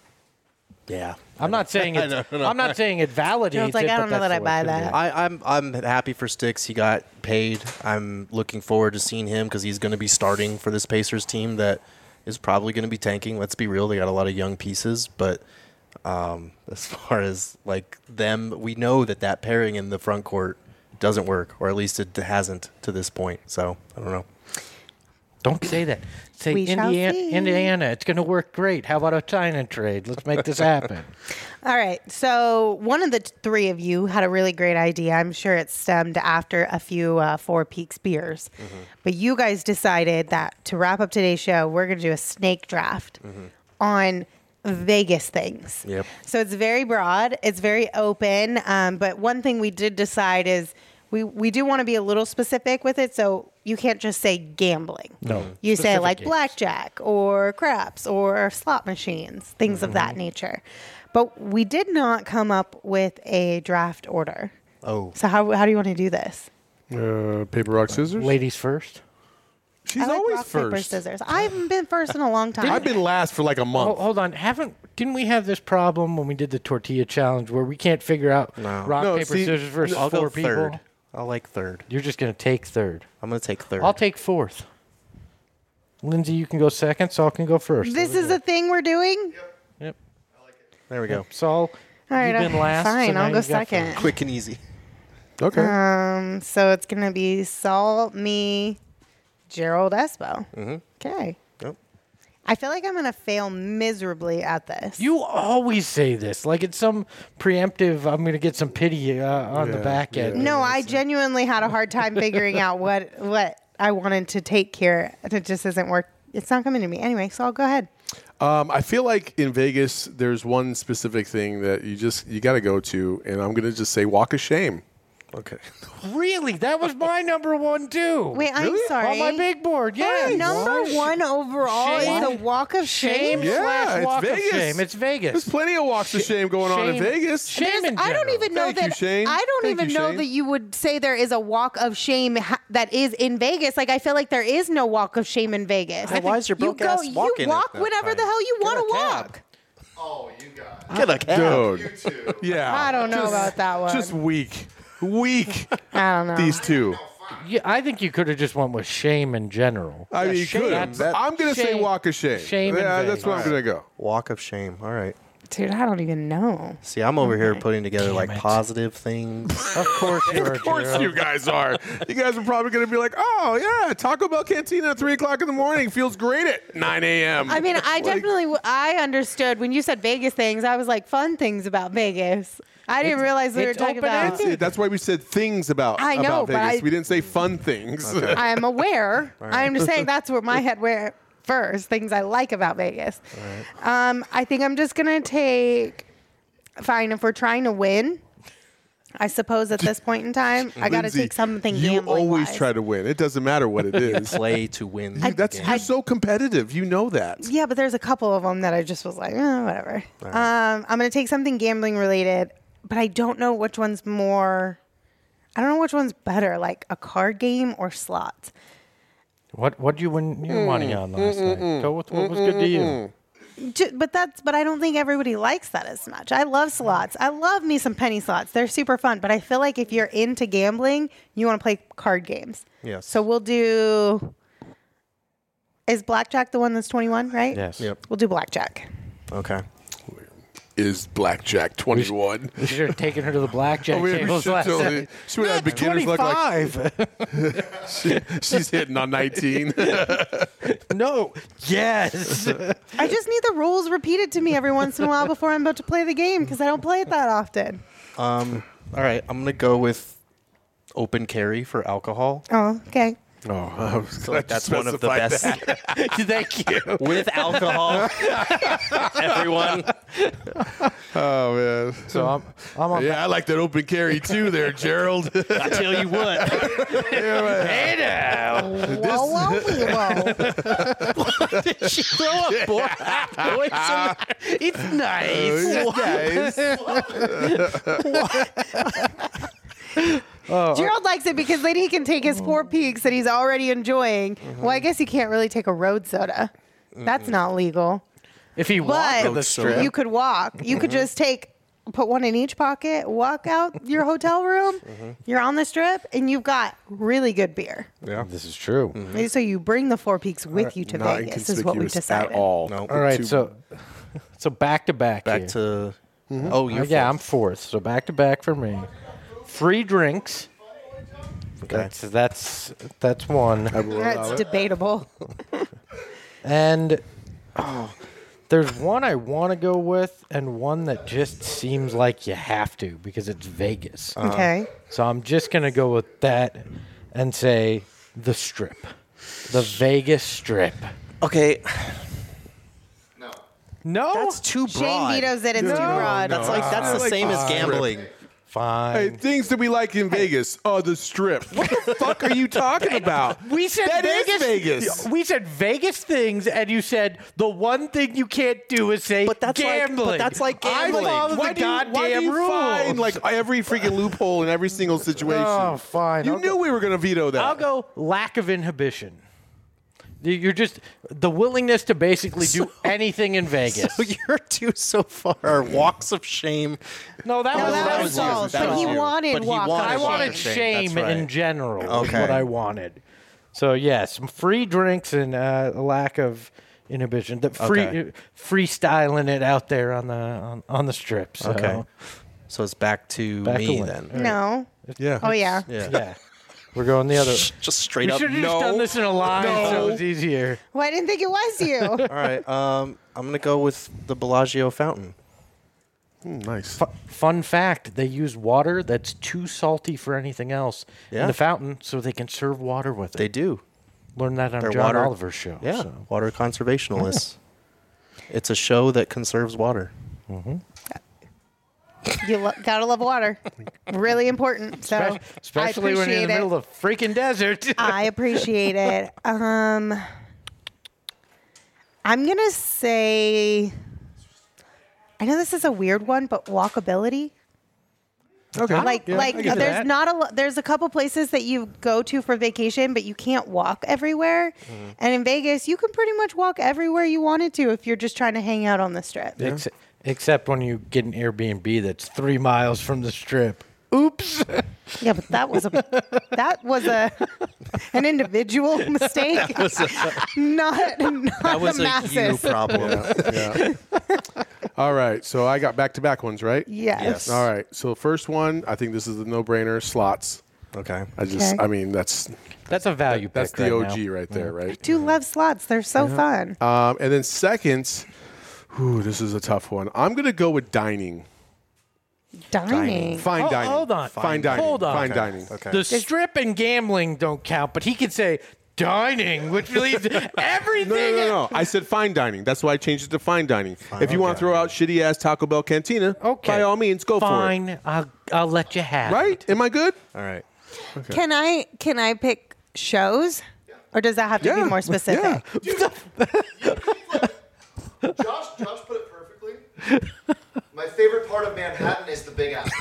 Yeah. I'm not saying I it's, know, I know. I'm not saying it validates Jones like, it, I but don't know that's that I the way it buy should be. that. I, I'm I'm happy for Sticks. He got paid. I'm looking forward to seeing him because he's going to be starting for this Pacers team that is probably going to be tanking. Let's be real; they got a lot of young pieces, but um, as far as like them, we know that that pairing in the front court doesn't work, or at least it hasn't to this point. So I don't know. Don't say that. Say We shall Indiana, see. Indiana. It's going to work great. How about a China trade? Let's make this happen. All right. So one of the t- three of you had a really great idea. I'm sure it stemmed after a few uh, Four Peaks beers. But you guys decided that to wrap up today's show, we're going to do a snake draft on Vegas things. Yep. So it's very broad. It's very open. Um, but one thing we did decide is we, we do want to be a little specific with it. So you can't just say gambling. No. You say Specific like games. blackjack or craps or slot machines, things of that nature. But we did not come up with a draft order. Oh. So how how do you want to do this? Uh, paper, rock, scissors. Ladies first. She's I like always rock, first. paper, scissors. I haven't been first in a long time. I've been last for like a month. Oh, hold on. Haven't didn't we have this problem when we did the tortilla challenge where we can't figure out No. rock No, paper see, scissors versus I'll four go people? third. I'll like third. You're just going to take third. I'm going to take third. I'll take fourth. Lindsay, you can go second. Saul can go first. This is a thing we're doing? Yep. There we go. Saul, All right, you've been uh, last. fine, so now I'll go you got second. first. Quick and easy. Okay. Um, so it's going to be Saul, me, Gerald Espo. Mm-hmm. Okay. Yep. I feel like I'm going to fail miserably at this. You always say this, like it's some preemptive. I'm going to get some pity uh, on the back end. No, I genuinely had a hard time figuring out what what I wanted to take here. It just isn't work. It's not coming to me anyway. So I'll go ahead. Um, I feel like in Vegas, there's one specific thing that you just you got to go to, and I'm going to just say walk of shame. Okay. Really? That was my number one too. Wait, I'm Really? sorry. On my big board, yeah. Our number one overall Shame. is the walk of shame. Shame Yeah, slash it's walk Vegas. of shame. It's Vegas. There's plenty of walks of shame going on in Shame- Vegas. Shame There's- in I don't general. even know Thank you, that. Shane. I don't Thank even you, know Shane. that you would say there is a walk of shame ha- that is in Vegas. Like I feel like there is no walk of shame in Vegas. Then why is your you broke ass You walking it walk that whenever time? the hell you want to a cab. walk. Get a cab. Dude. Yeah. I don't know Just- about that one. Just weak. Weak. I don't know. These two. Yeah, I think you could have just went with shame in general. I mean, you shame. could. That's- I'm going to say shame- walk of shame. shame in Yeah, that's Vegas. where I'm going to go. Walk of shame. All right. Dude, I don't even know. See, I'm over here putting together Damn like it. positive things. Of course you are. Of course Gerald. you guys are. You guys are probably going to be like, oh, yeah, Taco Bell Cantina at three o'clock in the morning feels great at nine a.m. I mean, I Like- definitely, w- I understood when you said Vegas things. I was like, fun things about Vegas. I didn't realize we were it's talking about. That's, it. That's why we said things about, I know, about but Vegas. I- we didn't say fun things. I am aware. I'm just saying that's where my head went first. Things I like about Vegas. Um, I think I'm just gonna take. Fine, if we're trying to win, I suppose at this point in time, I got to Lindsay, take something you gambling always wise. try to win. It doesn't matter what it is. Play to win. You- that's the you're game. so competitive. You know that. Yeah, but there's a couple of them that I just was like, eh, whatever. Um, I'm gonna take something gambling related, but I don't know which one's more. I don't know which one's better, like a card game or slots. What what did you win your money on last night? Go with what was good to you. Ju- But that's but I don't think everybody likes that as much. I love slots. I love me some penny slots. They're super fun. But I feel like if you're into gambling, you want to play card games. Yes. So we'll do. Is blackjack the one that's twenty-one, right? Yes. Yep. We'll do blackjack. Okay. Is blackjack twenty-one? You should have taken her to the blackjack Oh, we- we tables should last totally- night. she would have beginner's luck like twenty-five. she, she's hitting on nineteen. No. Yes. I just need the rules repeated to me every once in a while before I'm about to play the game because I don't play it that often. Um. All right. I'm gonna go with open carry for alcohol. Oh, okay. Oh, I was So glad that's you one of the specified best. that. Thank you. With alcohol. Everyone. Oh man. So I'm I'm on. Yeah, I like that open carry too, there, Gerald. I tell you what. Hey now. Whoa, whoa, whoa. Did she throw a boy? Boys in It's nice. Gerald likes it because then he can take his four peaks that he's already enjoying. Well, I guess you can't really take a road soda. That's not legal. If he walked But to the strip, you could walk. You could just take, put one in each pocket, walk out your hotel room. You're on the strip, and you've got really good beer. Yeah. this is true. So you bring the four peaks with you to Not Vegas. Is what we inconspicuous decided. at all. No. All right, Two- so so back to back. Back here. to. Oh, Uh, you're yeah, I'm fourth. fourth. So back to back for me. Free drinks. Okay. That's that's that's one. That's debatable. And oh, there's one I want to go with, and one that just seems like you have to because it's Vegas. Okay. So I'm just gonna go with that and say the Strip, the Vegas Strip. Okay. No, That's too Shane broad. vetoes it. It's too No, broad. That's like that's I the like same the as strip. gambling. fine. Hey, things that we like in Vegas. Oh, the strip. What the fuck are you talking about? We said That is Vegas. Vegas. We said Vegas things, and you said the one thing you can't do is say But that's like- but gambling. that's like I gambling. follow Why the do you, goddamn why do you rules. find like every freaking loophole in every single situation? Oh, fine. You I'll knew go- we were going to veto that. I'll go lack of inhibition. You're just the willingness to basically do anything in Vegas. So your two so far are walks of shame. no, that No, was that that was was Saul, yours. That but was he you. wanted But he walk wanted I of wanted shame. shame That's right. in general. is Okay. what I wanted. So yes, some free drinks and uh, a lack of inhibition. The free Okay. freestyling it out there on the on, on the strip. So. Okay. So it's back to Back me to Lynn. then. All right. No. yeah. Oh yeah. Yeah. Yeah. We're going the other. Just straight we up. should have No. just done this in a line so it's easier. Well, I didn't think it was you. All right. Um, I'm gonna go with the Bellagio fountain. Mm, nice. F- fun fact: they use water that's too salty for anything else Yeah. in the fountain, so they can serve water with it. They do. Learn that on They're John water- Oliver's show. Yeah, so. water conservationalists. It's a show that conserves water. Mm-hmm. You lo- gotta love water. Really important. So Espe- Especially I when you're in the appreciate middle of the freaking desert. I appreciate it. Um, I'm gonna say. I know this is a weird one, but walkability. Okay. Like, Yeah, like I get there's that. not a. lo- There's a couple places that you go to for vacation, but you can't walk everywhere. Mm-hmm. And in Vegas, you can pretty much walk everywhere you wanted to if you're just trying to hang out on the strip. Ex- except when you get an Airbnb that's three miles from the strip. Oops. Yeah, but that was a that was a an individual mistake, not not That was the a masses. you problem. Yeah. All right. So I got back-to-back ones, right? Yes. Yes. All right. So first one, I think this is the no-brainer. Slots. Okay. I just, Okay. I mean, that's That's a value that's pick the right O now. G right there, I right? do love slots. They're so fun. Um, and then second, whew, this is a tough one. I'm gonna go with dining. Dining. Fine Oh, dining. hold on. Fine dining. Hold on. Fine Okay. dining. Okay. The strip and gambling don't count, but he could say dining, which leaves everything. No, no, no, no. I said fine dining. That's why I changed it to fine dining. if you want to throw out shitty ass Taco Bell Cantina, Okay. by all means, go Fine, for it. I'll, I'll let you have it. Right? Am I good? All right. Can I can I pick shows, or does that have to be Yeah. more specific? Yeah. Josh, Josh put it perfectly. My favorite part of Manhattan is the Big Apple.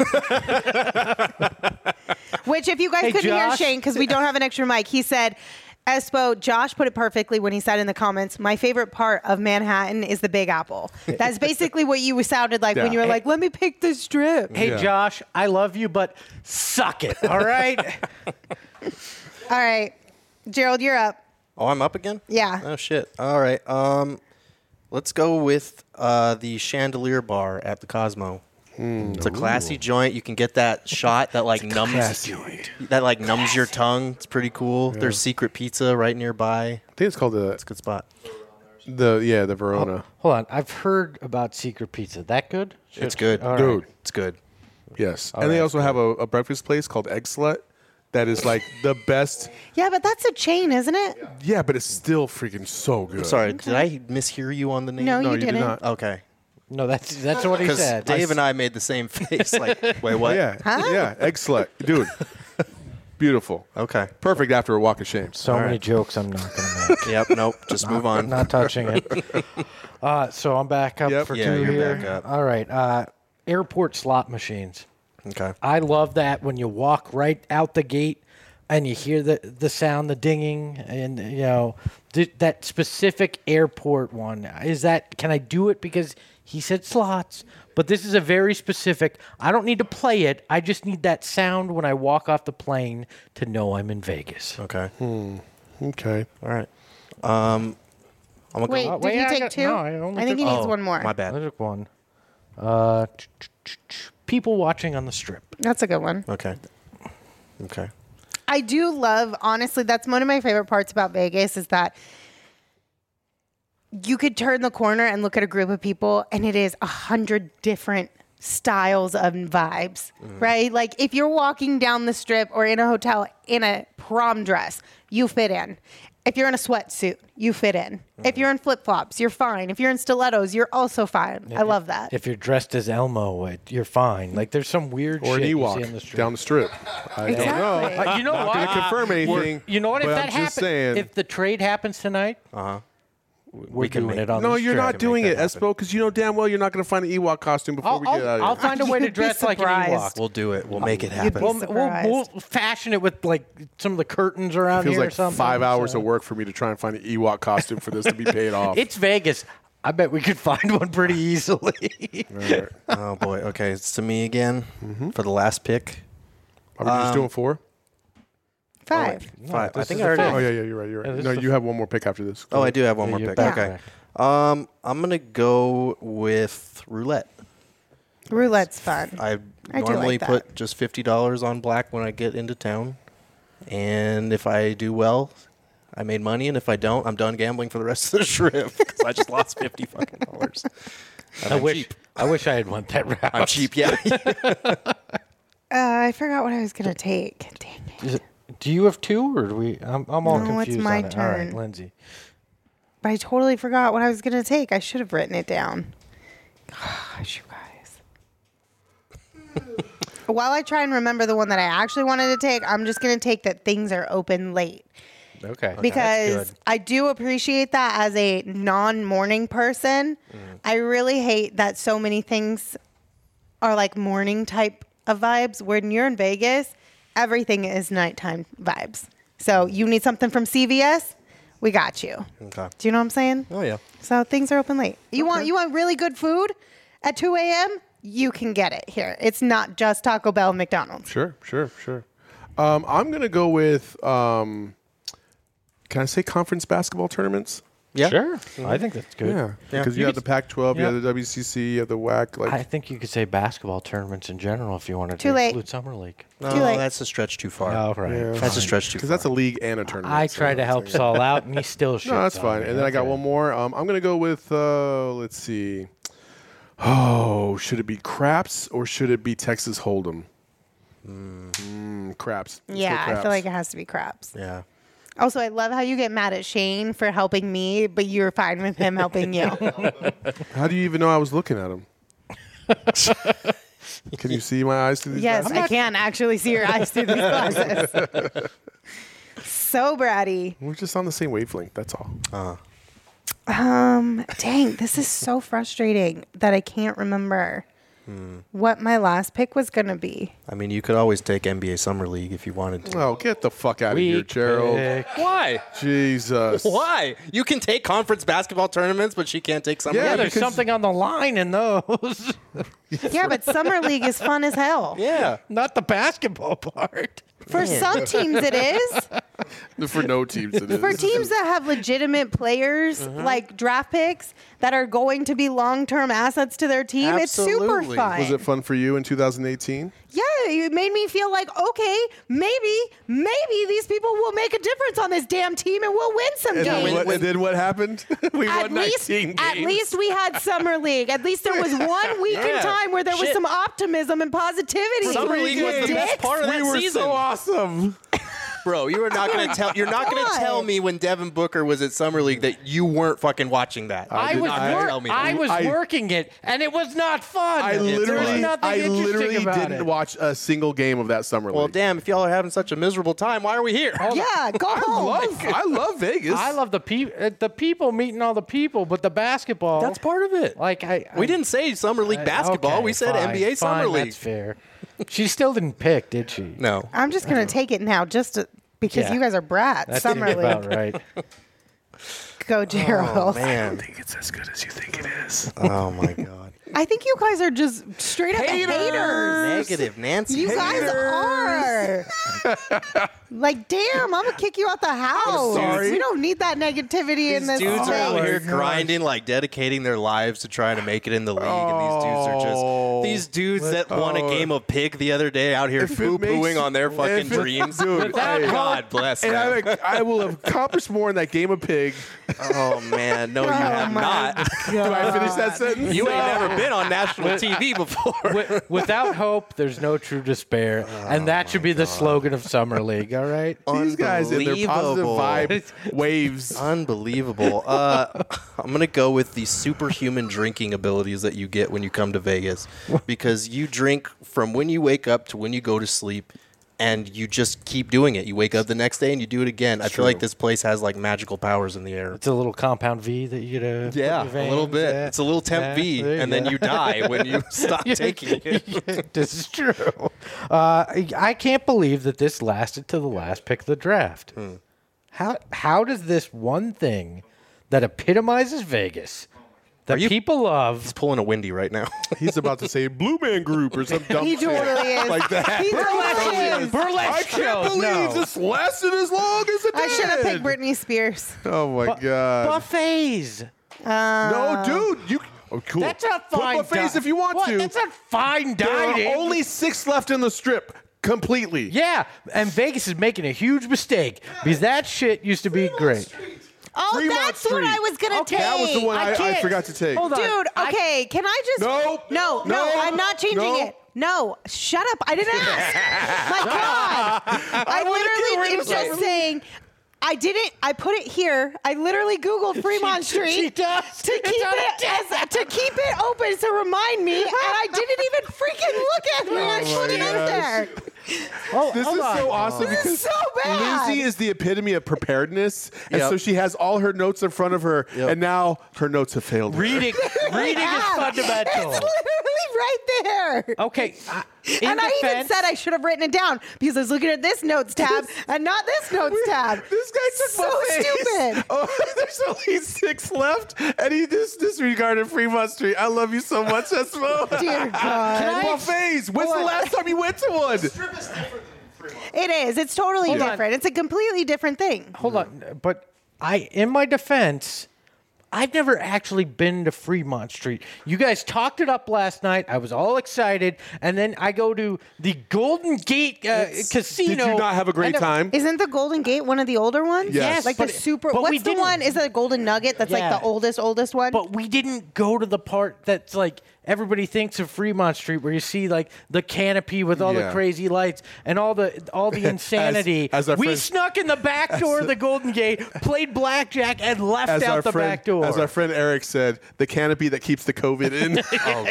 Which, if you guys Hey, couldn't hear Josh. Shane, because we don't have an extra mic, he said, Espo, Josh put it perfectly when he said in the comments, my favorite part of Manhattan is the Big Apple. That's basically what you sounded like when Yeah. you were like, let me pick the strip. Hey, Yeah. Josh, I love you, but suck it, all right? All right. Gerald, you're up. Oh, I'm up again? Yeah. Oh, shit. All right. Um, let's go with uh, the Chandelier Bar at the Cosmo. It's a classy joint. You can get that shot that like numbs that like numbs your tongue. It's pretty cool. There's secret pizza right nearby. I think it's called the It's a good spot. the yeah the Verona. Hold on. I've heard about Secret Pizza. That good? It's good. All right. Dude. It's good. Yes, All and they right, also have a, a breakfast place called Egg Slut. That is like the best. Yeah, but that's a chain, isn't it? Yeah, but it's still freaking so good. Sorry, did I mishear you on the name? No, No, you, you did didn't. not. Okay. No, that's that's what he Because said. Dave and I made the same face. Like, wait, what? Yeah, Huh? yeah, Egg Slut, dude. Beautiful. Okay. Perfect after a walk of shame. So All many right. jokes I'm not going to make. Yep. Nope. Just move on. Not touching it. Uh, so I'm back up Yep. for Yeah, two you're here. back up. All right. Uh, airport slot machines. Okay. I love that when you walk right out the gate and you hear the, the sound, the dinging, and you know th- that specific airport one. Is that can I do it because he said slots? But this is a very specific. I don't need to play it. I just need that sound when I walk off the plane to know I'm in Vegas. Okay. Okay. All right. Um, I'm gonna Wait, go. did wait, you I take got- two? no, I only I think he took- needs Oh, one more. My bad. I took one. Uh, ch- ch- ch- ch- people watching on the strip. That's a good one. Okay. Okay. I do love, honestly, that's one of my favorite parts about Vegas is that you could turn the corner and look at a group of people and it is a hundred different styles of vibes, right? Like if you're walking down the strip or in a hotel in a prom dress, you fit in. If you're in a sweatsuit, you fit in. If you're in flip-flops, you're fine. If you're in stilettos, you're also fine. I love that. If you're dressed as Elmo, it, you're fine. Like there's some weird Or an shit you see on the Ewok strip. down the strip. I don't know. Exactly. Uh, you know Not what? going to confirm anything. You know what? If but that I'm just happens, saying. if the trade happens tonight, Uh huh. we're can doing make- it on no, the you're strip. not doing make it, that happen. Espo, because you know damn well you're not going to find an Ewok costume before I'll, we get I'll, out of I'll here. find a way to You'd be dress like an surprised. Ewok. We'll do it. We'll make it You'd be happen. We'll, we'll, we'll surprised. fashion it with like some of the curtains around It feels here or like something. five hours so- of work for me to try and find an Ewok costume for this to be paid off. It's Vegas. I bet we could find one pretty easily. Right. Oh boy. Okay, it's to me again for the last pick. Are we just Um, doing four? Five. Five. I this think is I the already. Oh, yeah, yeah, you're right. You're Yeah, right. this No, is the you have one more pick after this. Oh, I do have one Yeah, more you're pick. back. Okay. Um, I'm gonna go with roulette. Roulette's fun. I I do normally like that. put just fifty dollars on black when I get into town. And if I do well, I made money, and if I don't, I'm done gambling for the rest of the trip because I just lost fifty fucking dollars. I wish cheap. I wish I had went that route. I'm cheap, yeah. uh, I forgot what I was gonna take. Dang it. it. Do you have two, or do we? I'm, I'm all No, confused. it's my on it. All right, turn. Lindsay. But I totally forgot what I was gonna take. I should have written it down. Gosh, you guys. While I try and remember the one that I actually wanted to take, I'm just gonna take that things are open late. Okay. Because I do appreciate that as a non-morning person. Mm. I really hate that so many things are like morning type of vibes. When you're in Vegas, everything is nighttime vibes. So you need something from C V S, we got you. Okay. Do you know what I'm saying? Oh yeah. So things are open late. You okay. want you want really good food at two a.m.? You can get it here. It's not just Taco Bell and McDonald's. Sure, sure, sure. Um, I'm gonna go with. Um, Can I say conference basketball tournaments? Yeah, sure. Mm-hmm. I think that's good. Yeah, because yeah. you, you have the Pac twelve, yeah. you have the W C C, you have the W A C. Like I think you could say basketball tournaments in general if you wanted too to late. include summer league. No, too late. That's a stretch too far. Oh, right. Yeah. That's a stretch too far. Because that's a league and a tournament. I so tried to help Saul out, and he still shit. No, that's fine. Me. And then okay. I got one more. Um, I'm gonna go with. Uh, let's see. Oh, should it be craps or should it be Texas Hold'em? Mm. Mm, craps. Let's yeah, craps. I feel like it has to be craps. Yeah. Also, I love how you get mad at Shane for helping me, but you're fine with him helping you. How do you even know I was looking at him? Can you see my eyes through these yes, glasses? I can actually see your eyes through these glasses. So bratty. We're just on the same wavelength. That's all. Uh. Um, dang, this is so frustrating that I can't remember hmm. what my last pick was going to be. I mean, you could always take N B A Summer League if you wanted to. Oh, get the fuck out Weak of here, Gerald. Pick. Why? Jesus. Why? You can take conference basketball tournaments, but she can't take Summer yeah, League. Yeah, there's something on the line in those. Yeah, but Summer League is fun as hell. Yeah. Not the basketball part. For Man. some teams, it is. For no teams, it is. For teams that have legitimate players, uh-huh. like draft picks, that are going to be long-term assets to their team, Absolutely. It's super fun. Was it fun for you in two thousand eighteen? Yeah, it made me feel like, okay, maybe, maybe these people will make a difference on this damn team and we'll win some and games. Then what, and then what happened? we at won least, nineteen games. At least we had Summer League. At least there was one week yeah. in time where there was Shit. some optimism and positivity. Summer League was the best part of we that were season. so awesome. Bro, you are not going to tell. You're not going to tell me when Devin Booker was at Summer League that you weren't fucking watching that. I, I was. Wor- I was I, working it, and it was not fun. I literally, I literally didn't it. watch a single game of that Summer League. Well, damn! If y'all are having such a miserable time, why are we here? Yeah, go home. I love, I love Vegas. I love the people. Uh, the people meeting all the people, but the basketball. That's part of it. Like I, I we didn't say Summer League I, basketball. Okay, we said fine, N B A Summer fine, League. That's fair. She still didn't pick, did she? No. I'm just gonna take it now, just to, because Yeah. you guys are brats. That's Summer League. about right. Go, Gerald. Oh, man. I don't think it's as good as you think it is. Oh my God. I think you guys are just straight up haters. haters. Negative, Nancy. You haters. guys are. Like, damn, I'm gonna kick you out the house. I'm sorry. We don't need that negativity These in this dudes space. are out here grinding, like dedicating their lives to trying to make it in the league, and these dudes are just these dudes that won a game of pig the other day out here poo pooing on their fucking dreams. Dude, hey, God bless and them. I, I will have accomplished more in that game of pig. Oh man, no, you Oh, have my not. Do I finish that sentence? You ain't never been on national T V before. Wi- Without hope, there's no true despair, Oh, and that should be the slogan of Summer League. All right. These guys in their positive vibe waves. Unbelievable. Uh, I'm going to go with the superhuman drinking abilities that you get when you come to Vegas, because you drink from when you wake up to when you go to sleep, and you just keep doing it. You wake up the next day and you do it again. I feel like this place has like magical powers in the air. It's a little compound V that you get a Yeah, a little bit. Yeah. It's a little temp Yeah, V, and then you die when you stop taking it. This is true. Uh, I can't believe that this lasted to the last pick of the draft. Hmm. How how does this one thing that epitomizes Vegas, that you- people love, He's pulling a Wendy right now. He's about to say Blue Man Group or some dumb He shit totally is. like that. He totally is. burlesque I can't shows? believe No. this lasted as long as it did. I should have picked Britney Spears. Oh my god. buffets. No, dude, you. Oh, cool. That's a fine Put buffets di- if you want what? to. That's a fine There dining. are only six left in the strip. completely. Yeah, and Vegas is making a huge mistake because that shit used to be great. Oh, Fremont that's what Street. I was going to Okay. take. That was the one I, I, can't- forgot to take. Hold on. Dude, okay, can I just... No. No, no, No. I'm not changing No. it. No, shut up. I didn't ask. My God. I, wanna get literally rid am of just something. saying... I didn't. I put it here. I literally Googled Fremont She- Street she does. to keep It's on a it as, to keep it open to remind me, and I didn't even freaking look at it when I Oh put my it up gosh. there. Oh, This hold is on. so awesome This because is so bad. Lindsay is the epitome of preparedness, and Yep. so she has all her notes in front of her, Yep. and now her notes have failed her. Reading, reading is Yeah. fundamental. It's literally right there. Okay, uh, in And I even defense, said I should have written it down because I was looking at this notes tab and not this notes tab. This guy took so my face. stupid. Oh, there's only six left, and he just disregarded Fremont Street. I love you so much, Esmo. Dear God. Buffets. When's the last time you went to one? It is. It's totally Hold on. different. It's a completely different thing. hold on, but I, in my defense, I've never actually been to Fremont Street. You guys talked it up last night. I was all excited, and then I go to the Golden Gate uh, Casino. Did you not have a great and the- time? Isn't the Golden Gate one of the older ones? Yes. Like but the it- super. but we What's the didn't- one? Is it a Golden Nugget? That's Yeah. like the oldest, oldest one. But we didn't go to the part that's like everybody thinks of Fremont Street, where you see like the canopy with all Yeah. the crazy lights and all the all the insanity. as our we friend- snuck in the back door of the Golden Gate, played blackjack, and left As our out the friend, back door. as our friend Eric said, the canopy that keeps the COVID in. Oh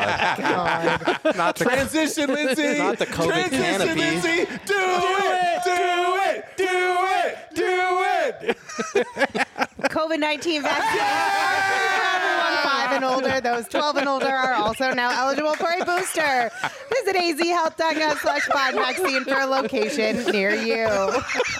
God! Not the Transition, Lindsay. Not the COVID Transition, canopy. Lindsay. Do, it, do it, do it, do it. COVID nineteen vaccine for everyone five and older. Those twelve and older are also now eligible for a booster. Visit azhealth.com slash find vaccine for a location near you.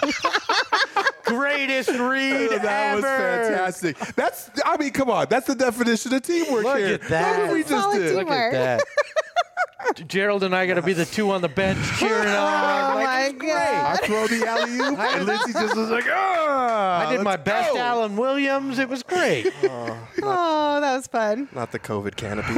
Greatest read That was ever. fantastic. That's, I mean, come on. That's the definition of teamwork Look here. at that. Look what we just Solid did. teamwork. Look at that. Gerald and I got to be the two on the bench cheering on. Oh Like, my it's great. I God. throw the alley oop, and Lindsay just was like, ah. I did my best Alan Williams. It was great. Oh, that was fun. Not the COVID canopy.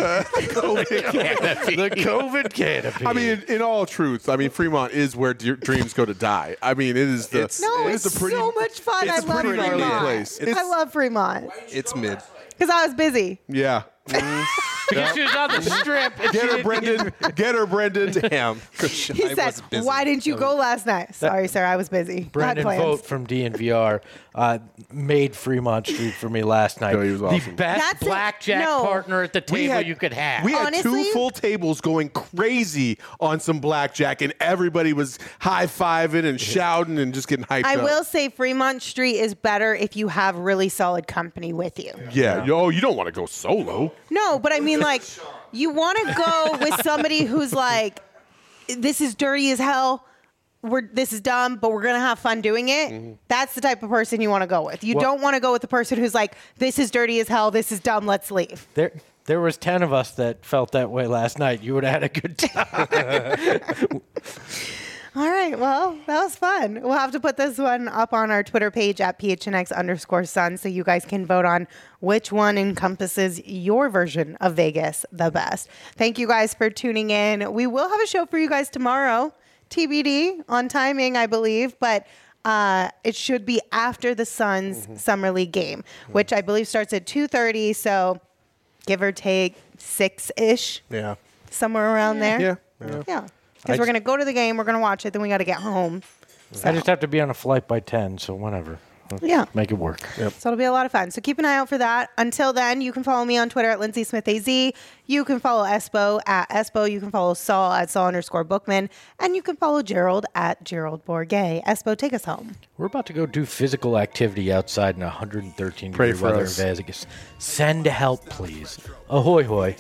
The COVID canopy. I mean, in, in all truth, I mean, Fremont is where d- dreams go to die. I mean, it is the. No, it it's is a pretty, so much fun. I it's a love pretty gnarly Fremont. place. I It's- love Fremont It's mid. because I was busy. Yeah. because she was on the strip. and she Get her, didn't- Brendan. Get her, Brendan. Damn. He said, "Why didn't you go last night?" Sorry, sir, I was busy. Had Brendan plans. Vogt from D N V R uh, made Fremont Street for me last night. No, he was The awesome. best That's it. blackjack No. partner at the We table had- you could have. We had Honestly? two full tables going crazy on some blackjack, and everybody was high fiving and shouting and just getting hyped I up. will say Fremont Street is better if you have really solid company with you. Yeah. Yo, you don't want to go solo. No, but I mean, like, you want to go with somebody who's like, this is dirty as hell. We're this is dumb, but we're gonna have fun doing it. Mm-hmm. That's the type of person you want to go with. You Well- don't want to go with the person who's like, this is dirty as hell. This is dumb. Let's leave. There, there was ten of us that felt that way last night. You would have had a good time. All right. Well, that was fun. We'll have to put this one up on our Twitter page at P H N X underscore Sun so you guys can vote on which one encompasses your version of Vegas the best. Thank you guys for tuning in. We will have a show for you guys tomorrow, T B D on timing, I believe, but uh, it should be after the Suns Mm-hmm. Summer League game, which I believe starts at two thirty. So give or take six-ish, Yeah. somewhere around there. Yeah. Yeah. I Because we're just- going to go to the game, we're going to watch it, then we got to get home. I just have to be on a flight by ten, so whatever. Let's Yeah. make it work. So it'll be a lot of fun. So keep an eye out for that. Until then, you can follow me on Twitter at Lindsay Smith A Z. You can follow Espo at Espo. You can follow Saul at Saul underscore Bookman. And you can follow Gerald at Gerald Bourget. Espo, take us home. We're about to go do physical activity outside in one hundred thirteen Pray degree for weather us. in Vegas. Send help, please. Ahoy, hoy.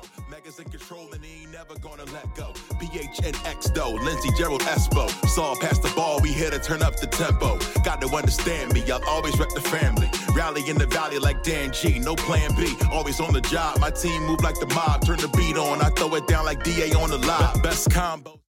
P H N X though, Lindsay, Gerald, Espo. Saw past the ball, we here to turn up the tempo. Got to understand me, I'll always rep the family. Rally in the valley like Dan G, no plan B. Always on the job, my team move like the mob. Turn the beat on, I throw it down like D A on the live. Best combo.